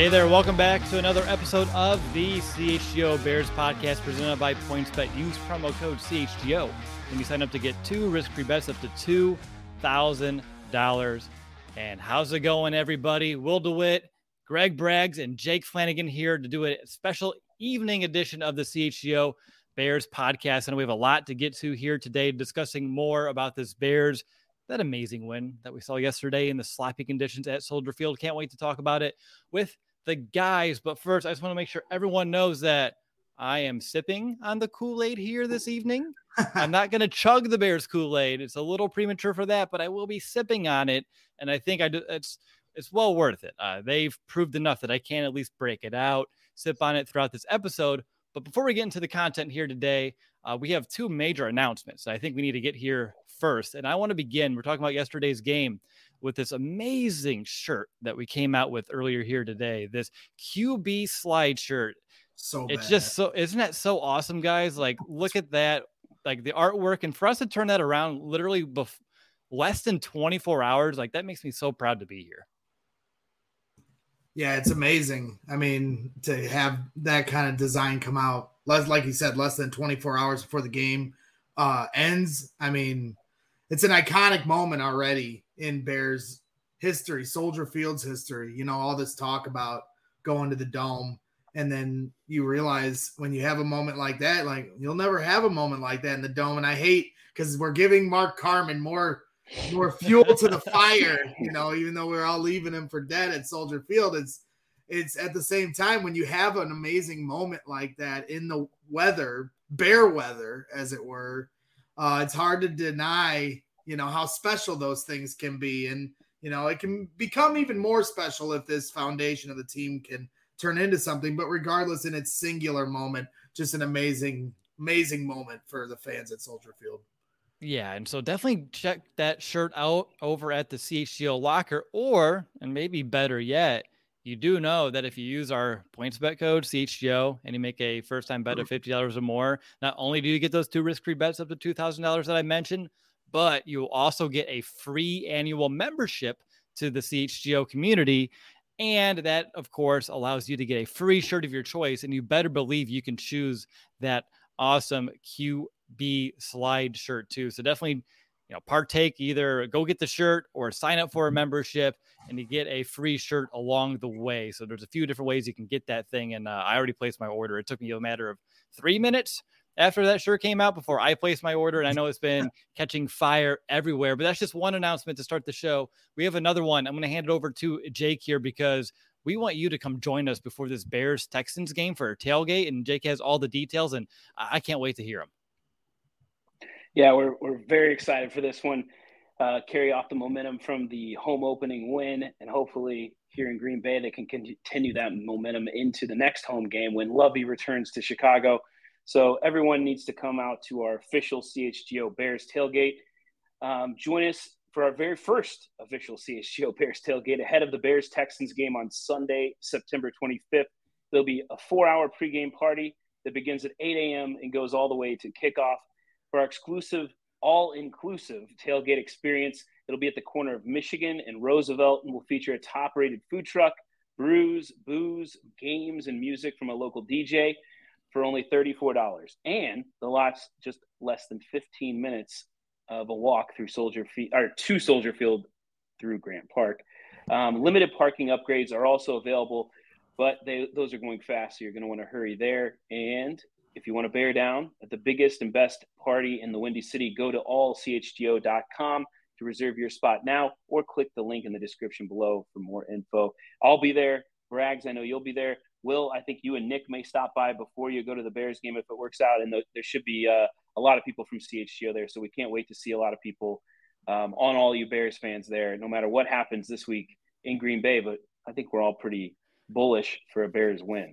Hey there, welcome back to another episode of the CHGO Bears podcast presented by PointsBet. Use promo code CHGO when you sign up to get 2 risk-free bets up to $2,000. And how's it going, everybody? Will DeWitt, Greg Braggs, and Jake Flanagan here to do a special evening edition of the CHGO Bears podcast. And we have a lot to get to here today, discussing more about this Bears, that amazing win that we saw yesterday in the sloppy conditions at Soldier Field. Can't wait to talk about it with the guys. But first, I just want to make sure everyone knows that I am sipping on the Kool-Aid here this evening. I'm not going to chug the Bears Kool-Aid. It's a little premature for that, but I will be sipping on it. And I think it's well worth it. They've proved enough that I can at least break it out, sip on it throughout this episode. But before we get into the content here today, we have 2 major announcements I think we need to get here first. And I want to begin. We're talking about yesterday's game with this amazing shirt that we came out with earlier here today. This QB slide shirt. So it's bad. just so, isn't that so awesome, guys? Like, look at that, like the artwork, and for us to turn that around literally less than 24 hours, like that makes me so proud to be here. Yeah, it's amazing. I mean, to have that kind of design come out, like you said, less than 24 hours before the game ends. I mean, it's an iconic moment already in Bears history, Soldier Field's history. You know, all this talk about going to the Dome, and then you realize when you have a moment like that, like you'll never have a moment like that in the Dome. And I hate, because we're giving Mark Carman more fuel to the fire, you know, even though we're all leaving him for dead at Soldier Field. It's at the same time, when you have an amazing moment like that in the weather, bear weather, as it were, it's hard to deny, you know, how special those things can be. And, you know, it can become even more special if this foundation of the team can turn into something. But regardless, in its singular moment, just an amazing moment for the fans at Soldier Field. Yeah, and so definitely check that shirt out over at the CHGO locker, or, and maybe better yet, you do know that if you use our PointsBet code CHGO and you make a first-time bet of $50 or more, not only do you get those 2 risk-free bets up to $2,000 that I mentioned, but you'll also get a free annual membership to the CHGO community. And that, of course, allows you to get a free shirt of your choice. And you better believe you can choose that awesome QB slide shirt too. So definitely, you know, partake, either go get the shirt or sign up for a membership, and you get a free shirt along the way. So there's a few different ways you can get that thing. And I already placed my order. It took me a matter of 3 minutes after that shirt came out before I placed my order. And I know it's been catching fire everywhere, but that's just one announcement to start the show. We have another one. I'm going to hand it over to Jake here, because we want you to come join us before this Bears-Texans game for a tailgate. And Jake has all the details, and I can't wait to hear them. Yeah, we're very excited for this one. Carry off the momentum from the home opening win, and hopefully here in Green Bay, they can continue that momentum into the next home game when Lovey returns to Chicago. So everyone needs to come out to our official CHGO Bears tailgate. Join us for our very first official CHGO Bears tailgate ahead of the Bears-Texans game on Sunday, September 25th. There'll be a 4-hour pregame party that begins at 8 a.m. and goes all the way to kickoff. For our exclusive, all-inclusive tailgate experience, it'll be at the corner of Michigan and Roosevelt, and will feature a top-rated food truck, brews, booze, games, and music from a local DJ for only $34. And the lot's just less than 15 minutes of a walk through to Soldier Field through Grant Park. Limited parking upgrades are also available, but those are going fast, so you're going to want to hurry there. And if you want to bear down at the biggest and best party in the Windy City, go to allchgo.com to reserve your spot now, or click the link in the description below for more info. I'll be there. Braggs, I know you'll be there. Will, I think you and Nick may stop by before you go to the Bears game if it works out. And there should be a lot of people from CHGO there. So we can't wait to see a lot of people on all you Bears fans there, no matter what happens this week in Green Bay. But I think we're all pretty bullish for a Bears win.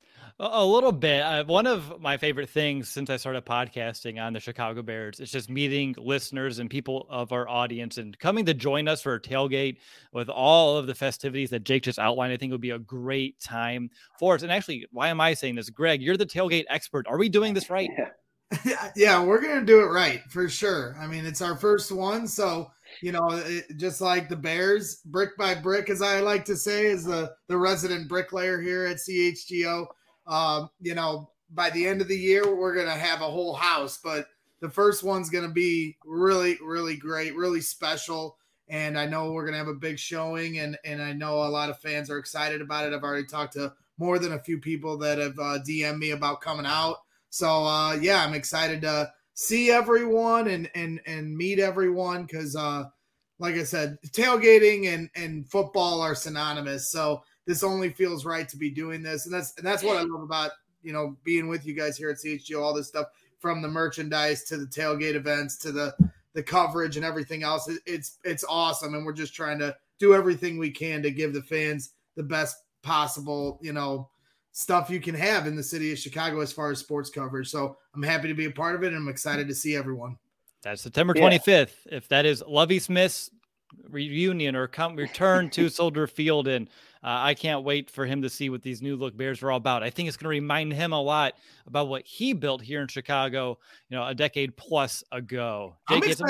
A little bit. One of my favorite things since I started podcasting on the Chicago Bears is just meeting listeners and people of our audience and coming to join us for a tailgate with all of the festivities that Jake just outlined. I think it would be a great time for us. And actually, why am I saying this? Greg, you're the tailgate expert. Are we doing this right? Yeah, we're going to do it right for sure. I mean, it's our first one, so You know, just like the Bears, brick by brick, as I like to say, is the resident bricklayer here at CHGO. You know, by the end of the year, we're going to have a whole house, but the first one's going to be really, really great, really special. And I know we're going to have a big showing, and I know a lot of fans are excited about it. I've already talked to more than a few people that have DM'd me about coming out. So, yeah, I'm excited to see everyone and meet everyone because, like I said, tailgating and football are synonymous. So this only feels right to be doing this. And that's what I love about, you know, being with you guys here at CHGO, all this stuff from the merchandise to the tailgate events to the coverage and everything else. It's awesome. And we're just trying to do everything we can to give the fans the best possible, you know, stuff you can have in the city of Chicago as far as sports coverage. So I'm happy to be a part of it, and I'm excited to see everyone. That's September 25th. If that is Lovie Smith's reunion or return to Soldier Field, and I can't wait for him to see what these new look Bears are all about. I think it's going to remind him a lot about what he built here in Chicago, you know, a decade plus ago. Jake, I'm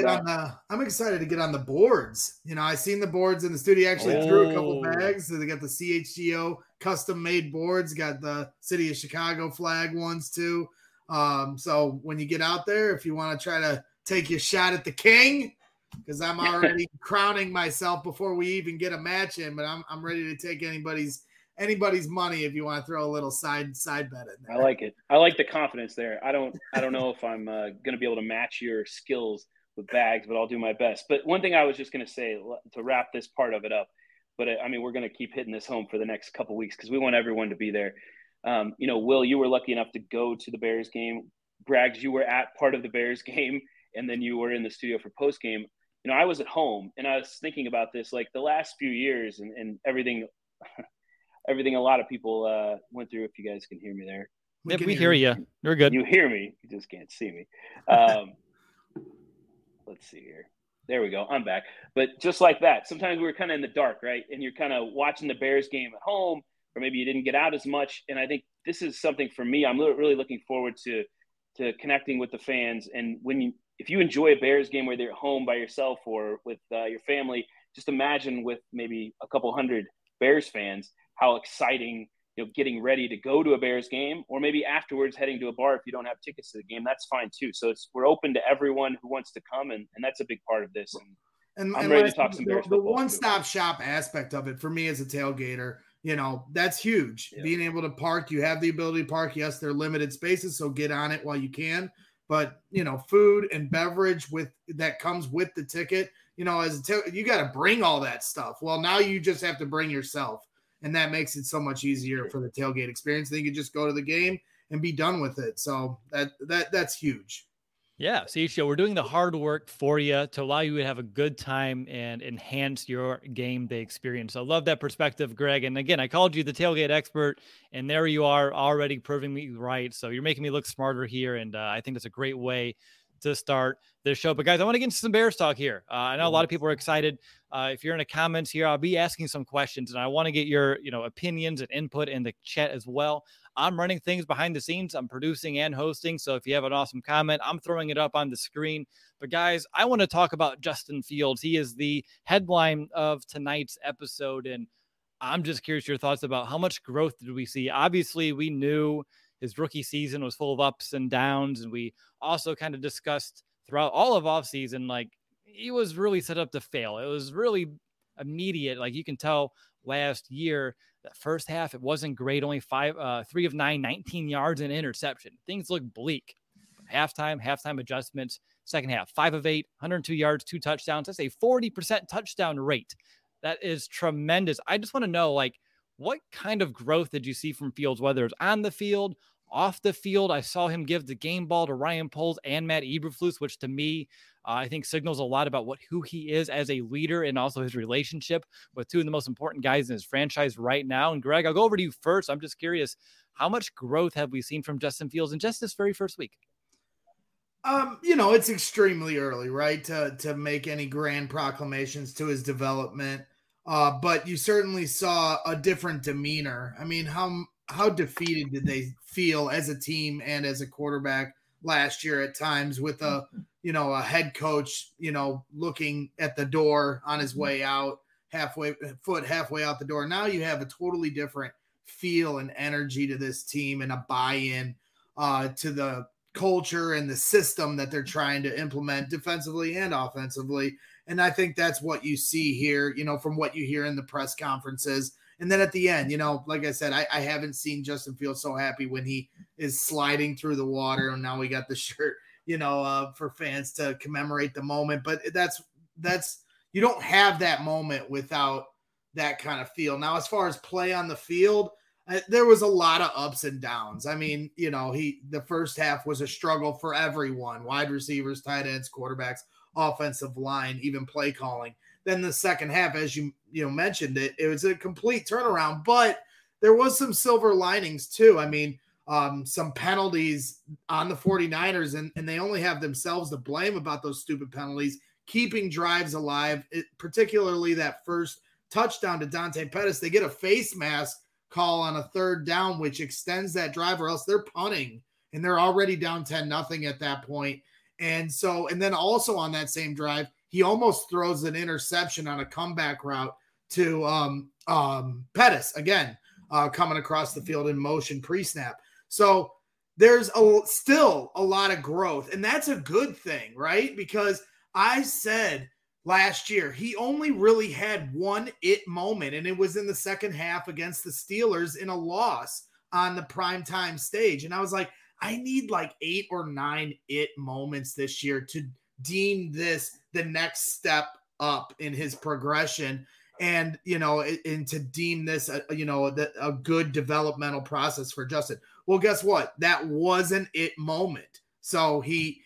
excited to get on the boards. You know, I seen the boards in the studio. Actually threw a couple bags. So they got the CHGO custom made boards, got the city of Chicago flag ones too. So when you get out there, if you want to try to take your shot at the king, because I'm already crowning myself before we even get a match in, but I'm ready to take anybody's money if you want to throw a little side bet in there. I like it. I like the confidence there. I don't know if I'm going to be able to match your skills with bags, but I'll do my best. But one thing I was just going to say to wrap this part of it up, but I mean, we're going to keep hitting this home for the next couple of weeks because we want everyone to be there. You know, Will, you were lucky enough to go to the Bears game. Braggs, you were at part of the Bears game, and then you were in the studio for post game. You know, I was at home, and I was thinking about this, like the last few years and everything a lot of people went through. If you guys can hear me there. We hear you. You're good. You hear me. You just can't see me. Let's see here. There we go. I'm back. But just like that, sometimes we were kind of in the dark, right? And you're kind of watching the Bears game at home, or maybe you didn't get out as much. And I think this is something for me. I'm really looking forward to connecting with the fans. And if you enjoy a Bears game, whether you're at home by yourself or with your family, just imagine with maybe a couple hundred Bears fans, how exciting, you know, getting ready to go to a Bears game, or maybe afterwards heading to a bar if you don't have tickets to the game. That's fine too. So we're open to everyone who wants to come, and that's a big part of this. And I'm ready to talk some Bears football. The one-stop shop aspect of it for me as a tailgater, you know, that's huge. Yeah. Being able to park, you have the ability to park. Yes, they're limited spaces, so get on it while you can. But, you know, food and beverage that comes with the ticket, you know, you got to bring all that stuff. Well, now you just have to bring yourself, and that makes it so much easier for the tailgate experience. Then you can just go to the game and be done with it. So that's huge. Yeah, CHGO, we're doing the hard work for you to allow you to have a good time and enhance your game day experience. So I love that perspective, Greg. And again, I called you the tailgate expert, and there you are already proving me right. So you're making me look smarter here, and I think that's a great way to start this show. But guys, I want to get into some Bears talk here. I know a lot of people are excited. If you're in the comments here, I'll be asking some questions, and I want to get your opinions and input in the chat as well. I'm running things behind the scenes. I'm producing and hosting. So if you have an awesome comment, I'm throwing it up on the screen. But guys, I want to talk about Justin Fields. He is the headline of tonight's episode. And I'm just curious your thoughts about how much growth did we see? Obviously, we knew his rookie season was full of ups and downs. And we also kind of discussed throughout all of offseason, like he was really set up to fail. It was really immediate. Like you can tell last year, that first half, it wasn't great. Only 3 of 9, 19 yards and interception. Things look bleak. Halftime adjustments. Second half, 5 of 8, 102 yards, 2 touchdowns. That's a 40% touchdown rate. That is tremendous. I just want to know, like, what kind of growth did you see from Fields, whether it's on the field, off the field? I saw him give the game ball to Ryan Poles and Matt Eberflus, which to me, I think signals a lot about who he is as a leader and also his relationship with 2 of the most important guys in his franchise right now. And Greg, I'll go over to you first. I'm just curious, how much growth have we seen from Justin Fields in just this very first week? It's extremely early, right, to make any grand proclamations to his development. But you certainly saw a different demeanor. I mean, how defeated did they feel as a team and as a quarterback last year at times with a a head coach, looking at the door on his way out, halfway out the door. Now you have a totally different feel and energy to this team and a buy-in to the culture and the system that they're trying to implement defensively and offensively. And I think that's what you see here, from what you hear in the press conferences. And then at the end, like I said, I haven't seen Justin Fields so happy when he is sliding through the water. And now we got the shirt, for fans to commemorate the moment. But that's you don't have that moment without that kind of feel. Now, as far as play on the field, there was a lot of ups and downs. I mean, the first half was a struggle for everyone: wide receivers, tight ends, quarterbacks, offensive line, even play calling. Then the second half, as you mentioned it was a complete turnaround, but there was some silver linings too. I mean, some penalties on the 49ers, and they only have themselves to blame about those stupid penalties, keeping drives alive, particularly that first touchdown to Dante Pettis. They get a face mask call on a third down, which extends that drive, or else they're punting, and they're already down 10-0 at that point. And then also on that same drive, he almost throws an interception on a comeback route to Pettis, again, coming across the field in motion pre-snap. So there's still a lot of growth, and that's a good thing, right? Because I said last year he only really had one it moment, and it was in the second half against the Steelers in a loss on the primetime stage. And I was like, I need like 8 or 9 it moments this year to deem this the next step up in his progression, and and to deem this a good developmental process for Justin. Well, guess what? That wasn't it moment. So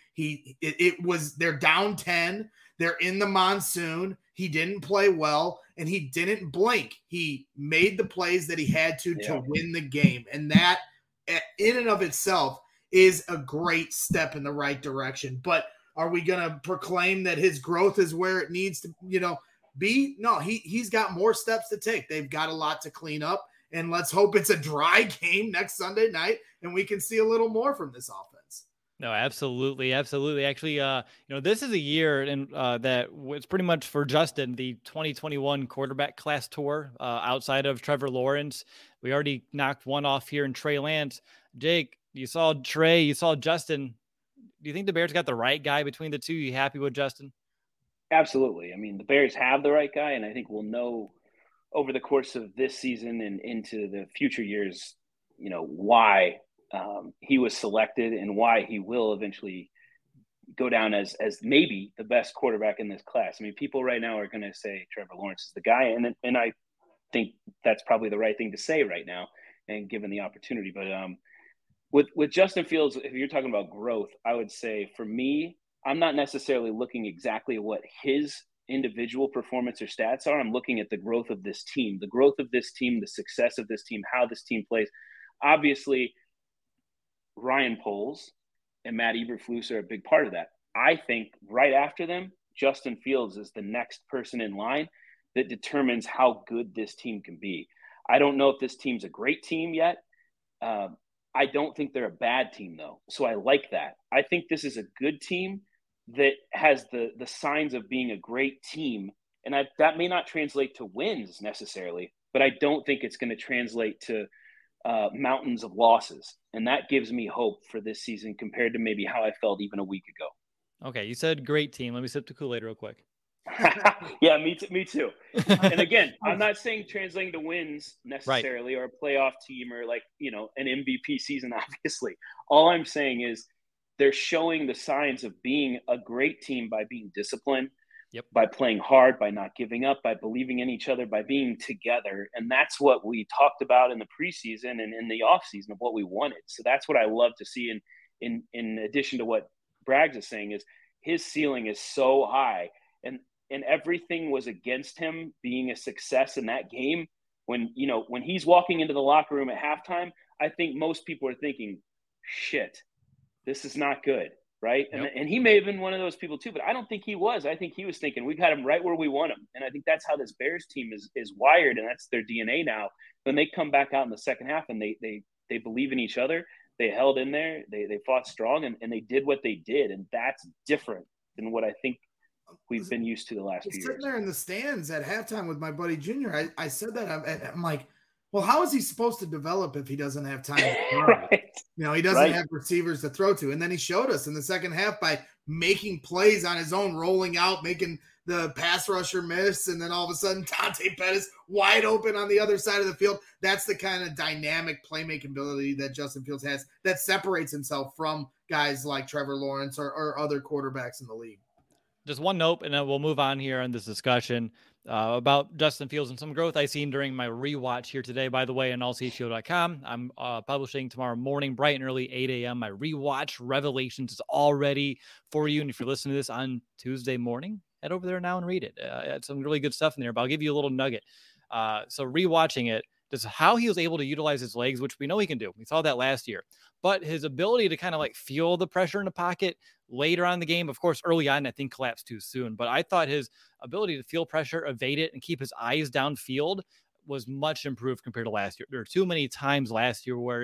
it was, they're down 10. They're in the monsoon. He didn't play well, and he didn't blink. He made the plays that he had to win the game. And that in and of itself is a great step in the right direction. But are we going to proclaim that his growth is where it needs to, be? No, he's got more steps to take. They've got a lot to clean up, and let's hope it's a dry game next Sunday night and we can see a little more from this offense. No, absolutely. Absolutely. Actually, this is a year that was pretty much for Justin, the 2021 quarterback class tour, outside of Trevor Lawrence. We already knocked one off here in Trey Lance. Jake, you saw Trey, you saw Justin. Do you think the Bears got the right guy between the two? You happy with Justin? Absolutely. I mean, the Bears have the right guy, and I think we'll know over the course of this season and into the future years, why he was selected and why he will eventually go down as maybe the best quarterback in this class. I mean, people right now are going to say Trevor Lawrence is the guy, and I think that's probably the right thing to say right now, and given the opportunity. But with Justin Fields, if you're talking about growth, I would say for me, I'm not necessarily looking exactly at what his individual performance or stats are. I'm looking at the growth of this team, the success of this team, how this team plays. Obviously, Ryan Poles and Matt Eberflus are a big part of that. I think right after them, Justin Fields is the next person in line that determines how good this team can be. I don't know if this team's a great team yet. I don't think they're a bad team, though. So I like that. I think this is a good team that has the signs of being a great team. And that may not translate to wins necessarily, but I don't think it's going to translate to mountains of losses. And that gives me hope for this season compared to maybe how I felt even a week ago. Okay, you said great team. Let me sip the Kool-Aid real quick. Yeah, me too. And again, I'm not saying translating to wins necessarily, right, or a playoff team or an MVP season, obviously. All I'm saying is they're showing the signs of being a great team by being disciplined, by playing hard, by not giving up, by believing in each other, by being together. And that's what we talked about in the preseason and in the offseason of what we wanted. So that's what I love to see. In addition to what Braggs is saying, is his ceiling is so high, and everything was against him being a success in that game. When he's walking into the locker room at halftime, I think most people are thinking, shit, this is not good, right? Yep. And he may have been one of those people too, but I don't think he was. I think he was thinking, we've got him right where we want him. And I think that's how this Bears team is wired, and that's their DNA now. When they come back out in the second half and they believe in each other, they held in there, they fought strong, and they did what they did, and that's different than what I think we've been used to the last few years. Sitting there in the stands at halftime with my buddy Junior, I said that I'm like, well, how is he supposed to develop if he doesn't have time to throw? Right. You know, he doesn't have receivers to throw to. And then he showed us in the second half by making plays on his own, rolling out, making the pass rusher miss, and then all of a sudden Dante Pettis wide open on the other side of the field. That's the kind of dynamic playmaking ability that Justin Fields has that separates himself from guys like Trevor Lawrence or other quarterbacks in the league. Just one note, and then we'll move on here in this discussion about Justin Fields and some growth I've seen during my rewatch here today, by the way, on allchgo.com. I'm publishing tomorrow morning, bright and early, 8 a.m. My rewatch Revelations is all ready for you. And if you're listening to this on Tuesday morning, head over there now and read it. It's some really good stuff in there, but I'll give you a little nugget. So rewatching it, just how he was able to utilize his legs, which we know he can do. We saw that last year. But his ability to kind of like feel the pressure in the pocket later on in the game, of course, early on, I think collapsed too soon. But I thought his ability to feel pressure, evade it, and keep his eyes downfield was much improved compared to last year. There were too many times last year where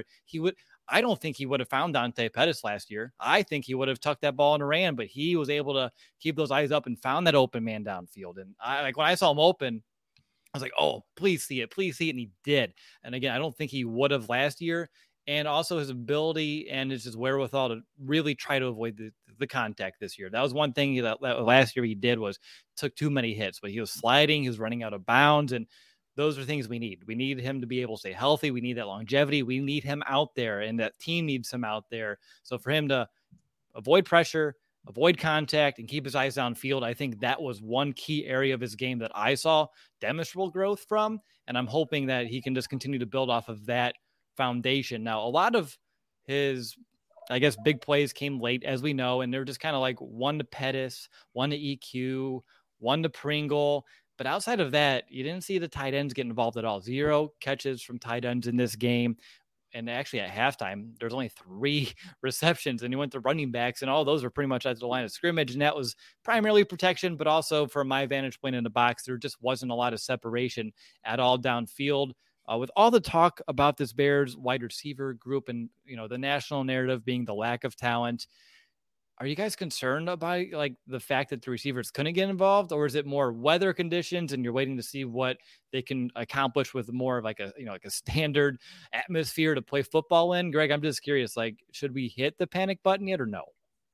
I don't think he would have found Dante Pettis last year. I think he would have tucked that ball and ran, but he was able to keep those eyes up and found that open man downfield. And when I saw him open, I was like, oh, please see it. And he did. And again, I don't think he would have last year. And also his ability and his wherewithal to really try to avoid the contact this year. That was one thing that last year he did was took too many hits, but he was sliding, he was running out of bounds. And those are things we need. We need him to be able to stay healthy. We need that longevity. We need him out there, and that team needs him out there. So for him to avoid pressure, avoid contact, and keep his eyes downfield, I think that was one key area of his game that I saw demonstrable growth from. And I'm hoping that he can just continue to build off of that foundation. Now, a lot of his, I guess, big plays came late, as we know, and they're just kind of like one to Pettis, one to EQ, one to Pringle. But outside of that, you didn't see the tight ends get involved at all. 0 catches from tight ends in this game. And actually at halftime, there's only 3 receptions, and he went to running backs, and all those were pretty much at the line of scrimmage. And that was primarily protection, but also from my vantage point in the box, there just wasn't a lot of separation at all downfield. With all the talk about this Bears wide receiver group and, the national narrative being the lack of talent, are you guys concerned about like the fact that the receivers couldn't get involved, or is it more weather conditions and you're waiting to see what they can accomplish with more of like a standard atmosphere to play football in? Greg, I'm just curious, like, should we hit the panic button yet or no?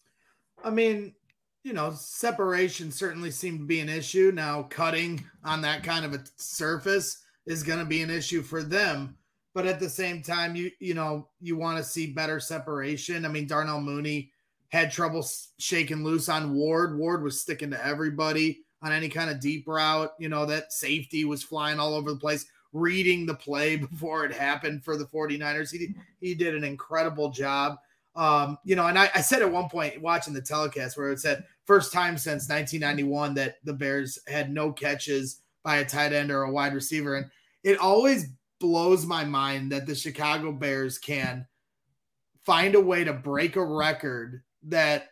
I mean, separation certainly seemed to be an issue. Now cutting on that kind of a surface is going to be an issue for them. But at the same time, you want to see better separation. I mean, Darnell Mooney had trouble shaking loose on Ward. Ward was sticking to everybody on any kind of deep route. That safety was flying all over the place, reading the play before it happened for the 49ers. He did an incredible job. And I said at one point watching the telecast where it said first time since 1991 that the Bears had no catches by a tight end or a wide receiver. And it always blows my mind that the Chicago Bears can find a way to break a record that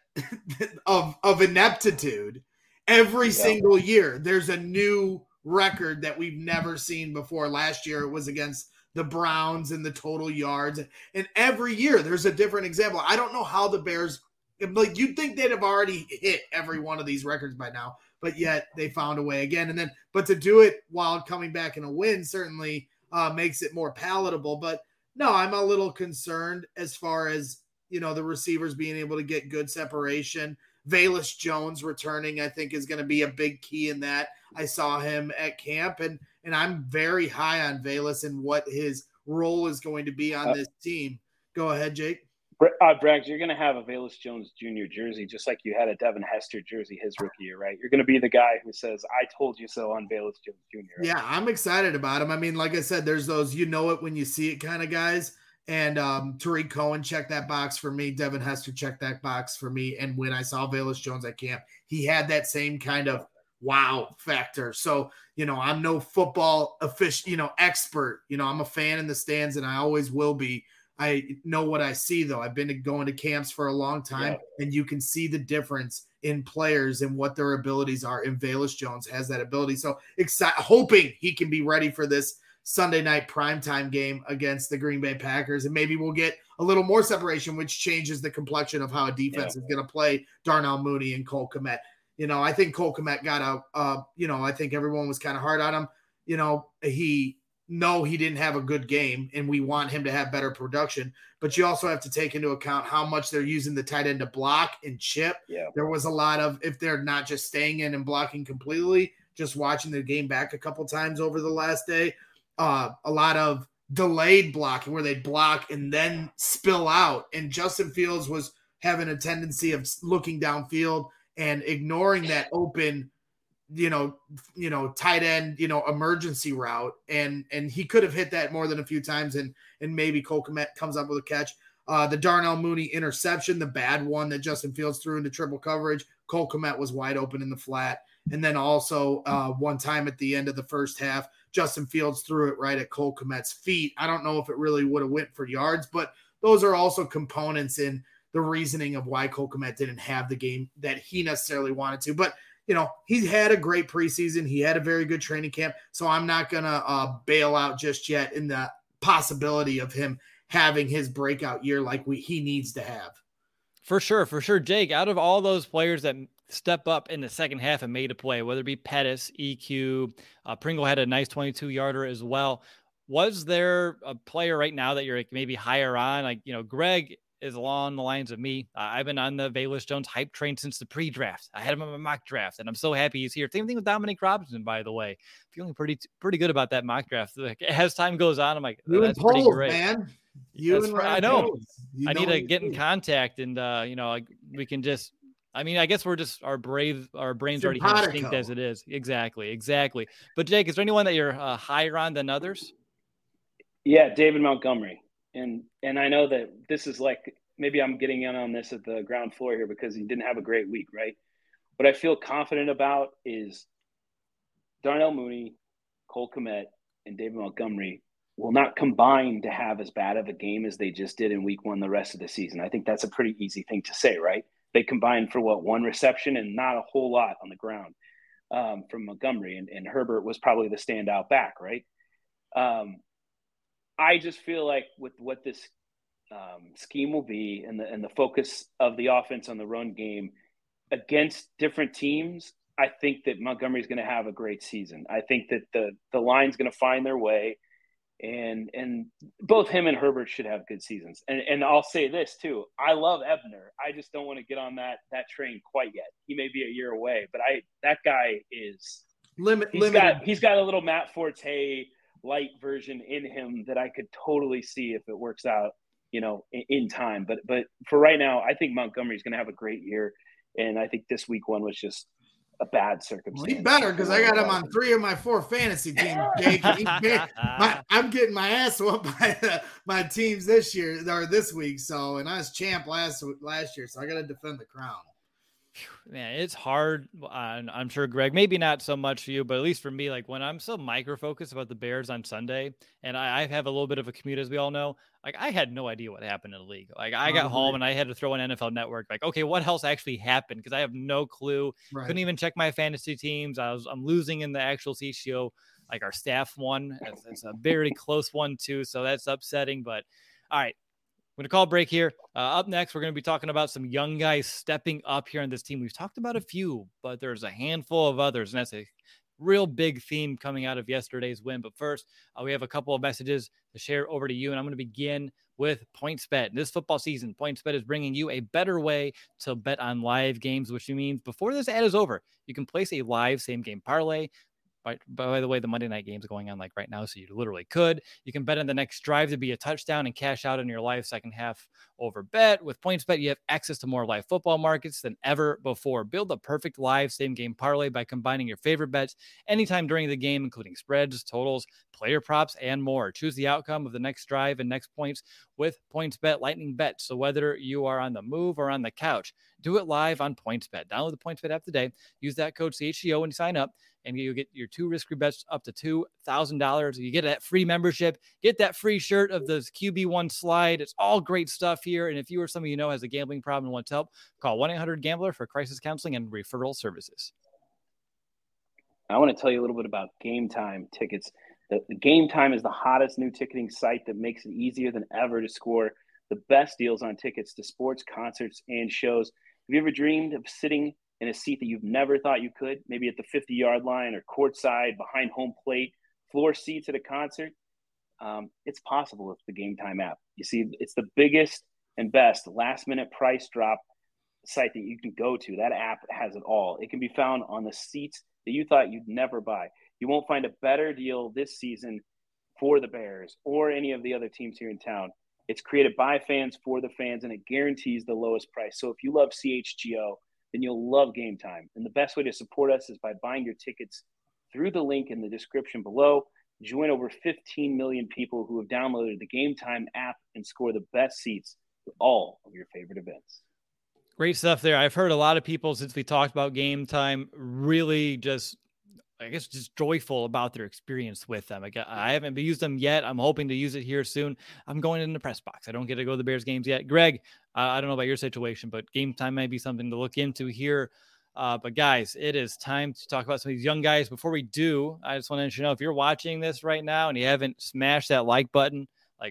of ineptitude every single year. There's a new record that we've never seen before. Last year it was against the Browns and the total yards, and every year there's a different example. I don't know how the Bears, like, you'd think they'd have already hit every one of these records by now, but yet they found a way again. But to do it while coming back in a win certainly makes it more palatable. But no, I'm a little concerned as far as, the receivers being able to get good separation. Velus Jones returning, I think, is going to be a big key in that. I saw him at camp, and I'm very high on Velus and what his role is going to be on this team. Go ahead, Jake. Braggs, you're going to have a Velus Jones Jr. jersey, just like you had a Devin Hester jersey his rookie year, right? You're going to be the guy who says, I told you so on Velus Jones Jr. Right? Yeah, I'm excited about him. I mean, like I said, there's those it when you see it kind of guys. And Tariq Cohen checked that box for me. Devin Hester checked that box for me. And when I saw Velus Jones at camp, he had that same kind of wow factor. So, I'm no football expert. I'm a fan in the stands, and I always will be. I know what I see, though. I've been going to camps for a long time, and you can see the difference in players and what their abilities are. And Velus Jones has that ability. So hoping he can be ready for this Sunday night primetime game against the Green Bay Packers. And maybe we'll get a little more separation, which changes the complexion of how a defense is going to play Darnell Mooney and Cole Kmet. I think Cole Kmet got I think everyone was kind of hard on him. He didn't have a good game, and we want him to have better production. But you also have to take into account how much they're using the tight end to block and chip. Yeah. There was a lot of, if they're not just staying in and blocking completely, just watching the game back a couple times over the last day, a lot of delayed blocking where they block and then spill out. And Justin Fields was having a tendency of looking downfield and ignoring that open, tight end, emergency route. And he could have hit that more than a few times. And maybe Cole Kmet comes up with a catch. The Darnell Mooney interception, the bad one that Justin Fields threw into triple coverage, Cole Kmet was wide open in the flat. And then also one time at the end of the first half, Justin Fields threw it right at Cole Kmet's feet. I don't know if it really would have went for yards, but those are also components in the reasoning of why Cole Kmet didn't have the game that he necessarily wanted to. But, he had a great preseason. He had a very good training camp. So I'm not going to bail out just yet in the possibility of him having his breakout year like he needs to have. For sure. Jake, out of all those players that step up in the second half and made a play, whether it be Pettis, EQ, Pringle had a nice 22-yarder as well. Was there a player right now that you're maybe higher on? Greg is along the lines of me. I've been on the Velus Jones hype train since the pre-draft. I had him in my mock draft, and I'm so happy he's here. Same thing with Dominic Robinson, by the way. Feeling pretty good about that mock draft. As time goes on, I'm like, that's pretty great, man. I know. I need to get in contact, and we can just. I guess we're just our brains already instinct as it is. Exactly. But Jake, is there anyone that you're higher on than others? Yeah, David Montgomery. And I know that this is maybe I'm getting in on this at the ground floor here because he didn't have a great week, right? What I feel confident about is Darnell Mooney, Cole Kmet, and David Montgomery will not combine to have as bad of a game as they just did in week one the rest of the season. I think that's a pretty easy thing to say, right? They combined for one reception and not a whole lot on the ground from Montgomery. And Herbert was probably the standout back, right? I just feel like with what this scheme will be and the focus of the offense on the run game against different teams, I think that Montgomery is going to have a great season. I think that the line's going to find their way, and both him and Herbert should have good seasons. And I'll say this too: I love Ebner. I just don't want to get on that train quite yet. He may be a year away, but that guy is limited. He's got a little Matt Forte light version in him that I could totally see if it works out, in time. But for right now, I think Montgomery's going to have a great year. And I think this week one was just a bad circumstance. Well, he better, because I got him on 3 of my 4 fantasy teams, Jake. I'm getting my ass whooped by my teams this year or this week. So, and I was champ last year, so I got to defend the crown. Man, it's hard. I'm sure, Greg, maybe not so much for you, but at least for me, when I'm so micro-focused about the Bears on Sunday, and I have a little bit of a commute, as we all know, I had no idea what happened in the league. I got home and I had to throw an NFL Network. Okay, what else actually happened? Because I have no clue. Right. Couldn't even check my fantasy teams. I'm losing in the actual CCO. Our staff won. It's a very close one, too, so that's upsetting. But, all right. I'm going to call a break here. Up next, we're going to be talking about some young guys stepping up here on this team. We've talked about a few, but there's a handful of others, and that's a real big theme coming out of yesterday's win. But first, we have a couple of messages to share over to you, and I'm going to begin with PointsBet. This football season, PointsBet is bringing you a better way to bet on live games, which means before this ad is over, you can place a live same-game parlay. By the way, the Monday night game's going on right now, so you literally could. You can bet on the next drive to be a touchdown and cash out on your live second half over bet. With PointsBet, you have access to more live football markets than ever before. Build the perfect live same-game parlay by combining your favorite bets anytime during the game, including spreads, totals, player props, and more. Choose the outcome of the next drive and next points with PointsBet Lightning Bet. So whether you are on the move or on the couch, do it live on PointsBet. Download the PointsBet app today. Use that code CHGO when you sign up, and you get your 2 risk-free bets up to $2,000. You get that free membership, get that free shirt of the QB1 slide. It's all great stuff here. And if you or somebody you know has a gambling problem and wants help, call 1-800-GAMBLER for crisis counseling and referral services. I want to tell you a little bit about Game Time tickets. The Game Time is the hottest new ticketing site that makes it easier than ever to score the best deals on tickets to sports, concerts, and shows. Have you ever dreamed of sitting in a seat that you've never thought you could, maybe at the 50-yard line or courtside, behind home plate, floor seats at a concert? It's possible with the Game Time app. You see, it's the biggest and best last-minute price drop site that you can go to. That app has it all. It can be found on the seats that you thought you'd never buy. You won't find a better deal this season for the Bears or any of the other teams here in town. It's created by fans for the fans, and it guarantees the lowest price. So if you love CHGO, then you'll love Game Time. And the best way to support us is by buying your tickets through the link in the description below. Join over 15 million people who have downloaded the Game Time app and score the best seats to all of your favorite events. Great stuff there. I've heard a lot of people since we talked about Game Time really just joyful about their experience with them. I haven't used them yet. I'm hoping to use it here soon. I'm going in the press box. I don't get to go to the Bears games yet. Greg, I don't know about your situation, but Game Time might be something to look into here. But guys, it is time to talk about some of these young guys. Before we do, I just want to let you know, if you're watching this right now and you haven't smashed that like button,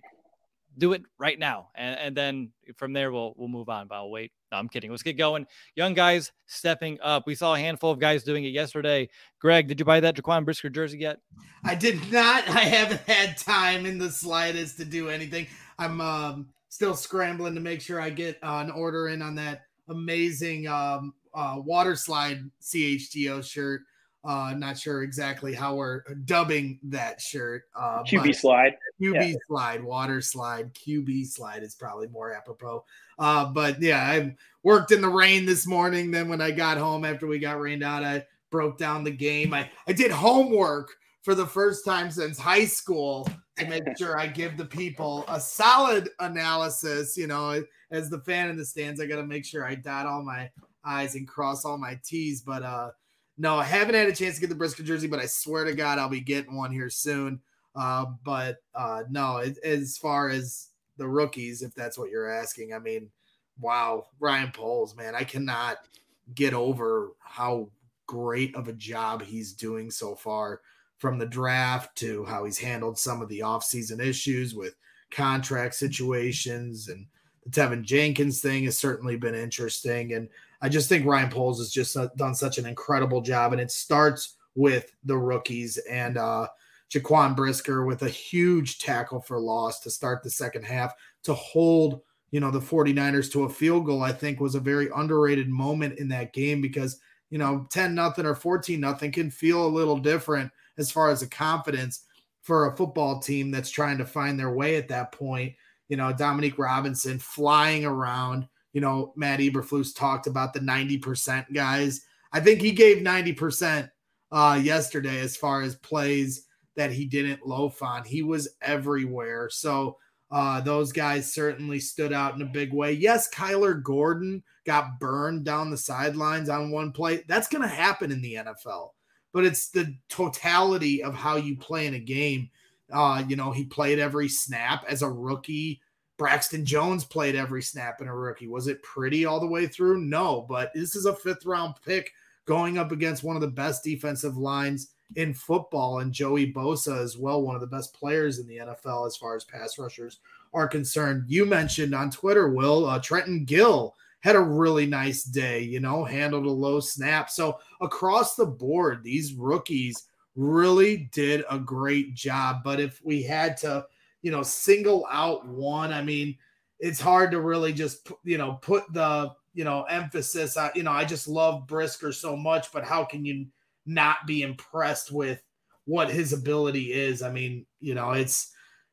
do it right now. And then from there, we'll move on, but I'll wait. No, I'm kidding. Let's get going. Young guys stepping up. We saw a handful of guys doing it yesterday. Greg, did you buy that Jaquan Brisker jersey yet? I did not. I haven't had time in the slightest to do anything. I'm still scrambling to make sure I get an order in on that amazing water slide CHGO shirt. Not sure exactly how we're dubbing that shirt. QB slide. QB slide, water slide, QB slide is probably more apropos. But yeah, I worked in the rain this morning. Then when I got home after we got rained out, I broke down the game. I did homework for the first time since high school to make sure I give the people a solid analysis. You know, as the fan in the stands, I got to make sure I dot all my I's and cross all my T's. But no, I haven't had a chance to get the Brisker jersey, but I swear to God, I'll be getting one here soon. No, as far as the rookies, if that's what you're asking, I mean, wow, Ryan Poles, man, I cannot get over how great of a job he's doing so far, from the draft to how he's handled some of the offseason issues with contract situations, and the Tevin Jenkins thing has certainly been interesting. And I just think Ryan Poles has just done such an incredible job, and it starts with the rookies. And Jaquan Brisker with a huge tackle for loss to start the second half to hold, the 49ers to a field goal, I think was a very underrated moment in that game, because, 10-0 or 14-0 can feel a little different as far as the confidence for a football team that's trying to find their way at that point. Dominique Robinson flying around. Matt Eberflus talked about the 90% guys. I think he gave 90% yesterday as far as plays that he didn't loaf on. He was everywhere. So those guys certainly stood out in a big way. Yes, Kyler Gordon got burned down the sidelines on one play. That's going to happen in the NFL. But it's the totality of how you play in a game. He played every snap as a rookie. Braxton Jones played every snap in a rookie. Was it pretty all the way through? No, but this is a 5th-round pick going up against one of the best defensive lines in football, and Joey Bosa as well, one of the best players in the NFL as far as pass rushers are concerned. You mentioned on Twitter, Will, Trenton Gill had a really nice day, handled a low snap. So across the board, these rookies really did a great job. But if we had to, single out one, I mean, it's hard to really just, put the, emphasis on, I just love Brisker so much, but how can you not be impressed with what his ability is? I mean, it's,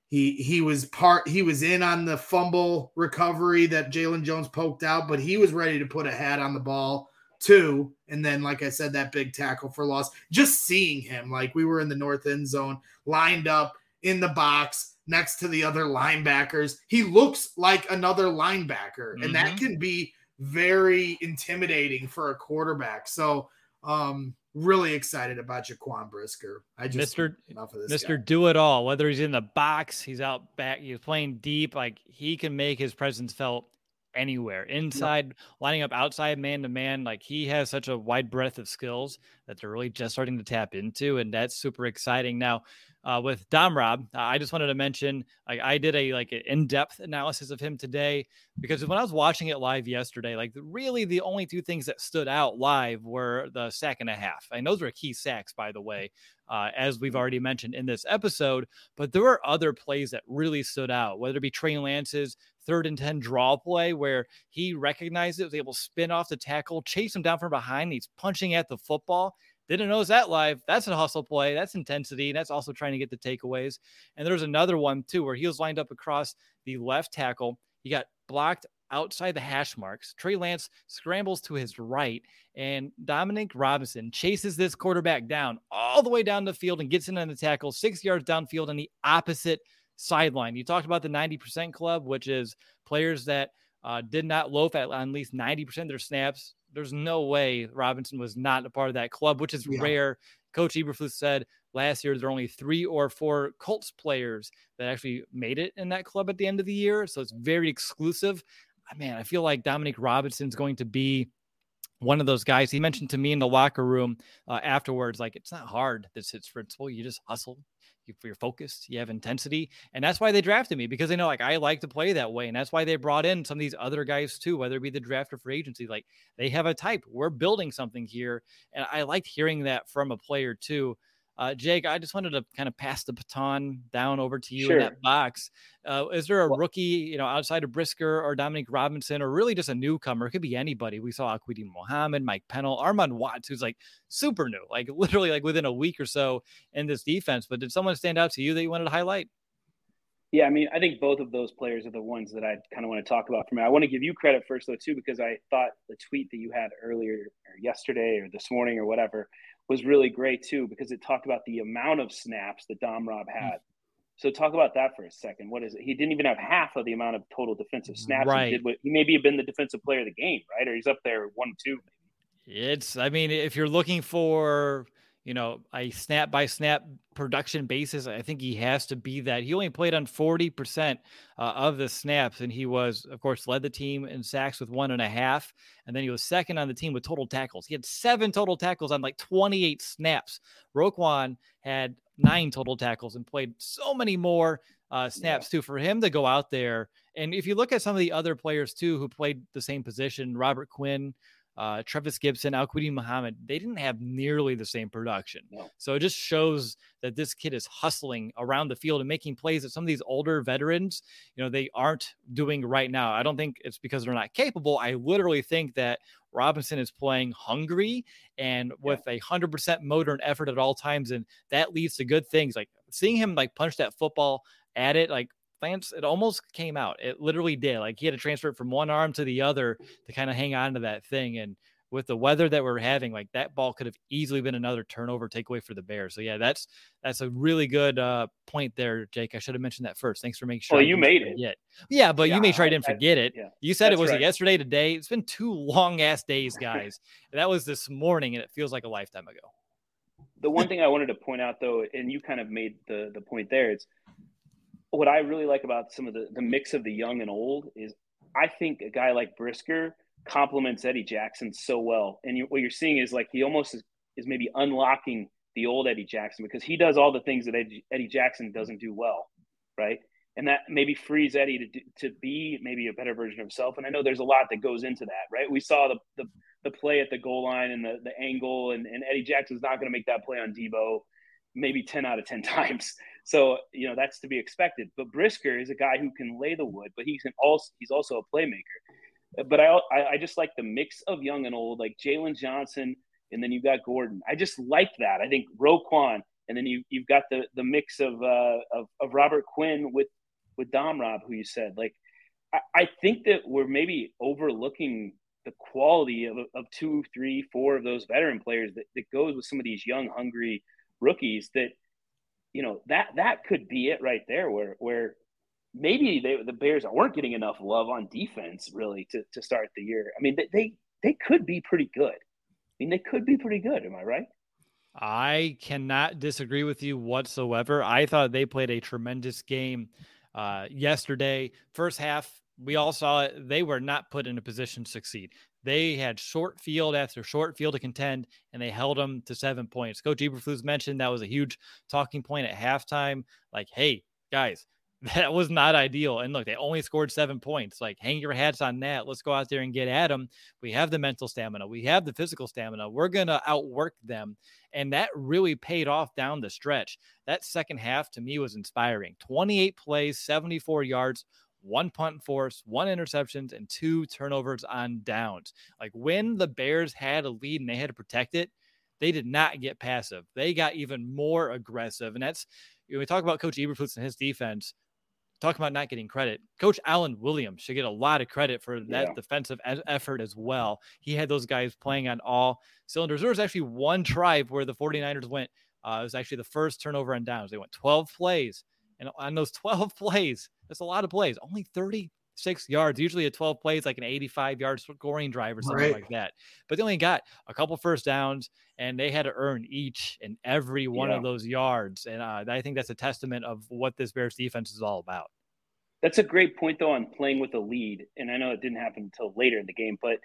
he was in on the fumble recovery that Jalen Jones poked out, but he was ready to put a hat on the ball too. And then, like I said, that big tackle for loss, just seeing him, like we were in the north end zone, lined up in the box next to the other linebackers. He looks like another linebacker, and that can be very intimidating for a quarterback. So, really excited about Jaquan Brisker. Mr. Do It All, whether he's in the box, he's out back, he's playing deep, like he can make his presence felt anywhere, inside, lining up outside, man to man. Like he has such a wide breadth of skills that they're really just starting to tap into, and that's super exciting. Now, with Domrob, I just wanted to mention, I did an in-depth analysis of him today, because when I was watching it live yesterday, really the only two things that stood out live were the sack and a half. And those were key sacks, by the way, as we've already mentioned in this episode. But there were other plays that really stood out, whether it be Trey Lance's 3rd and 10 draw play, where he recognized it, was able to spin off the tackle, chase him down from behind. And he's punching at the football. Didn't notice that live. That's a hustle play. That's intensity. That's also trying to get the takeaways. And there's another one too, where he was lined up across the left tackle. He got blocked outside the hash marks. Trey Lance scrambles to his right, and Dominic Robinson chases this quarterback down all the way down the field and gets in on the tackle 6 yards downfield on the opposite sideline. You talked about the 90% club, which is players that did not loaf at least 90% of their snaps. There's no way Robinson was not a part of that club, which is rare. Coach Eberflus said last year there were only 3 or 4 Colts players that actually made it in that club at the end of the year. So it's very exclusive. Man, I feel like Dominic Robinson's going to be one of those guys. He mentioned to me in the locker room afterwards, it's not hard. This hits principle. You just hustle. You're focused, you have intensity. And that's why they drafted me, because they know I like to play that way. And that's why they brought in some of these other guys too, whether it be the draft or free agency. They have a type. We're building something here. And I liked hearing that from a player too. Jake, I just wanted to kind of pass the baton down over to you in that box. Is there a rookie, outside of Brisker or Dominic Robinson, or really just a newcomer? It could be anybody. We saw Akwidi Muhammad, Mike Pennell, Armand Watts, who's super new, literally within a week or so in this defense. But did someone stand out to you that you wanted to highlight? Yeah, I mean, I think both of those players are the ones that I kind of want to talk about for me. I want to give you credit first, though, too, because I thought the tweet that you had earlier or yesterday or this morning or whatever was really great, too, because it talked about the amount of snaps that Domrob had. So talk about that for a second. What is it? He didn't even have half of the amount of total defensive snaps. Right. He maybe have been the defensive player of the game, right? Or he's up there 1-2. If you're looking for, a snap by snap production basis, I think he has to be that. He only played on 40% of the snaps, and he was, of course, led the team in sacks with 1.5, and then he was second on the team with total tackles. He had 7 total tackles on 28 snaps. Roquan had 9 total tackles and played so many more snaps too. For him to go out there, and if you look at some of the other players too who played the same position, Robert Quinn, Trevis Gibson, Akwidi Muhammad, they didn't have nearly the same production. No. So it just shows that this kid is hustling around the field and making plays that some of these older veterans, they aren't doing right now. I don't think it's because they're not capable. I literally think that Robinson is playing hungry and with 100% motor and effort at all times. And that leads to good things. Seeing him punch that football at it, Lance, it almost came out. It literally did. He had to transfer it from one arm to the other to kind of hang on to that thing. And with the weather that we're having, that ball could have easily been another turnover takeaway for the Bears. So yeah, that's a really good point there, Jake. I should have mentioned that first. Thanks for making sure. Well, you made it. Yeah, but you made sure I didn't forget it. Yeah. You said it was yesterday, today. It's been 2 long ass days, guys. That was this morning, and it feels like a lifetime ago. The one thing I wanted to point out, though, and you kind of made the point there, it's what I really like about some of the mix of the young and old is I think a guy like Brisker complements Eddie Jackson so well. And what you're seeing is he almost is maybe unlocking the old Eddie Jackson, because he does all the things that Eddie Jackson doesn't do well, right? And that maybe frees Eddie to be maybe a better version of himself. And I know there's a lot that goes into that, right? We saw the play at the goal line and the angle, and Eddie Jackson's not going to make that play on Debo maybe 10 out of 10 times. So, that's to be expected. But Brisker is a guy who can lay the wood, but he's also a playmaker. But I just like the mix of young and old, like Jalen Johnson, and then you've got Gordon. I just like that. I think Roquan, and then you've got the mix of Robert Quinn with Domrob, who you said. I think that we're maybe overlooking the quality of 2, 3, 4 of those veteran players that goes with some of these young, hungry rookies that, that could be it right there, where maybe the Bears weren't getting enough love on defense really to start the year. I mean, they could be pretty good. They could be pretty good. Am I right? I cannot disagree with you whatsoever. I thought they played a tremendous game yesterday. First half, we all saw it. They were not put in a position to succeed. They had short field after short field to contend, and they held them to 7 points. Coach Eberflus mentioned that was a huge talking point at halftime. Like, hey, guys, that was not ideal. And look, they only scored 7 points. Like, hang your hats on that. Let's go out there and get at them. We have the mental stamina. We have the physical stamina. We're going to outwork them. And that really paid off down the stretch. That second half to me was inspiring. 28 plays, 74 yards, 1 punt force, 1 interceptions, and 2 turnovers on downs. Like, when the Bears had a lead and they had to protect it, they did not get passive. They got even more aggressive. And that's, when we talk about Coach Eberflus and his defense, talking about not getting credit, Coach Alan Williams should get a lot of credit for that defensive effort as well. He had those guys playing on all cylinders. There was actually one drive where the 49ers went, it was actually the first turnover on downs. They went 12 plays. And on those 12 plays, that's a lot of plays, only 36 yards. Usually a 12 plays, like an 85-yard scoring drive or something like that. But they only got a couple first downs, and they had to earn each and every one of those yards. And I think that's a testament of what this Bears defense is all about. That's a great point, though, on playing with a lead. And I know it didn't happen until later in the game, but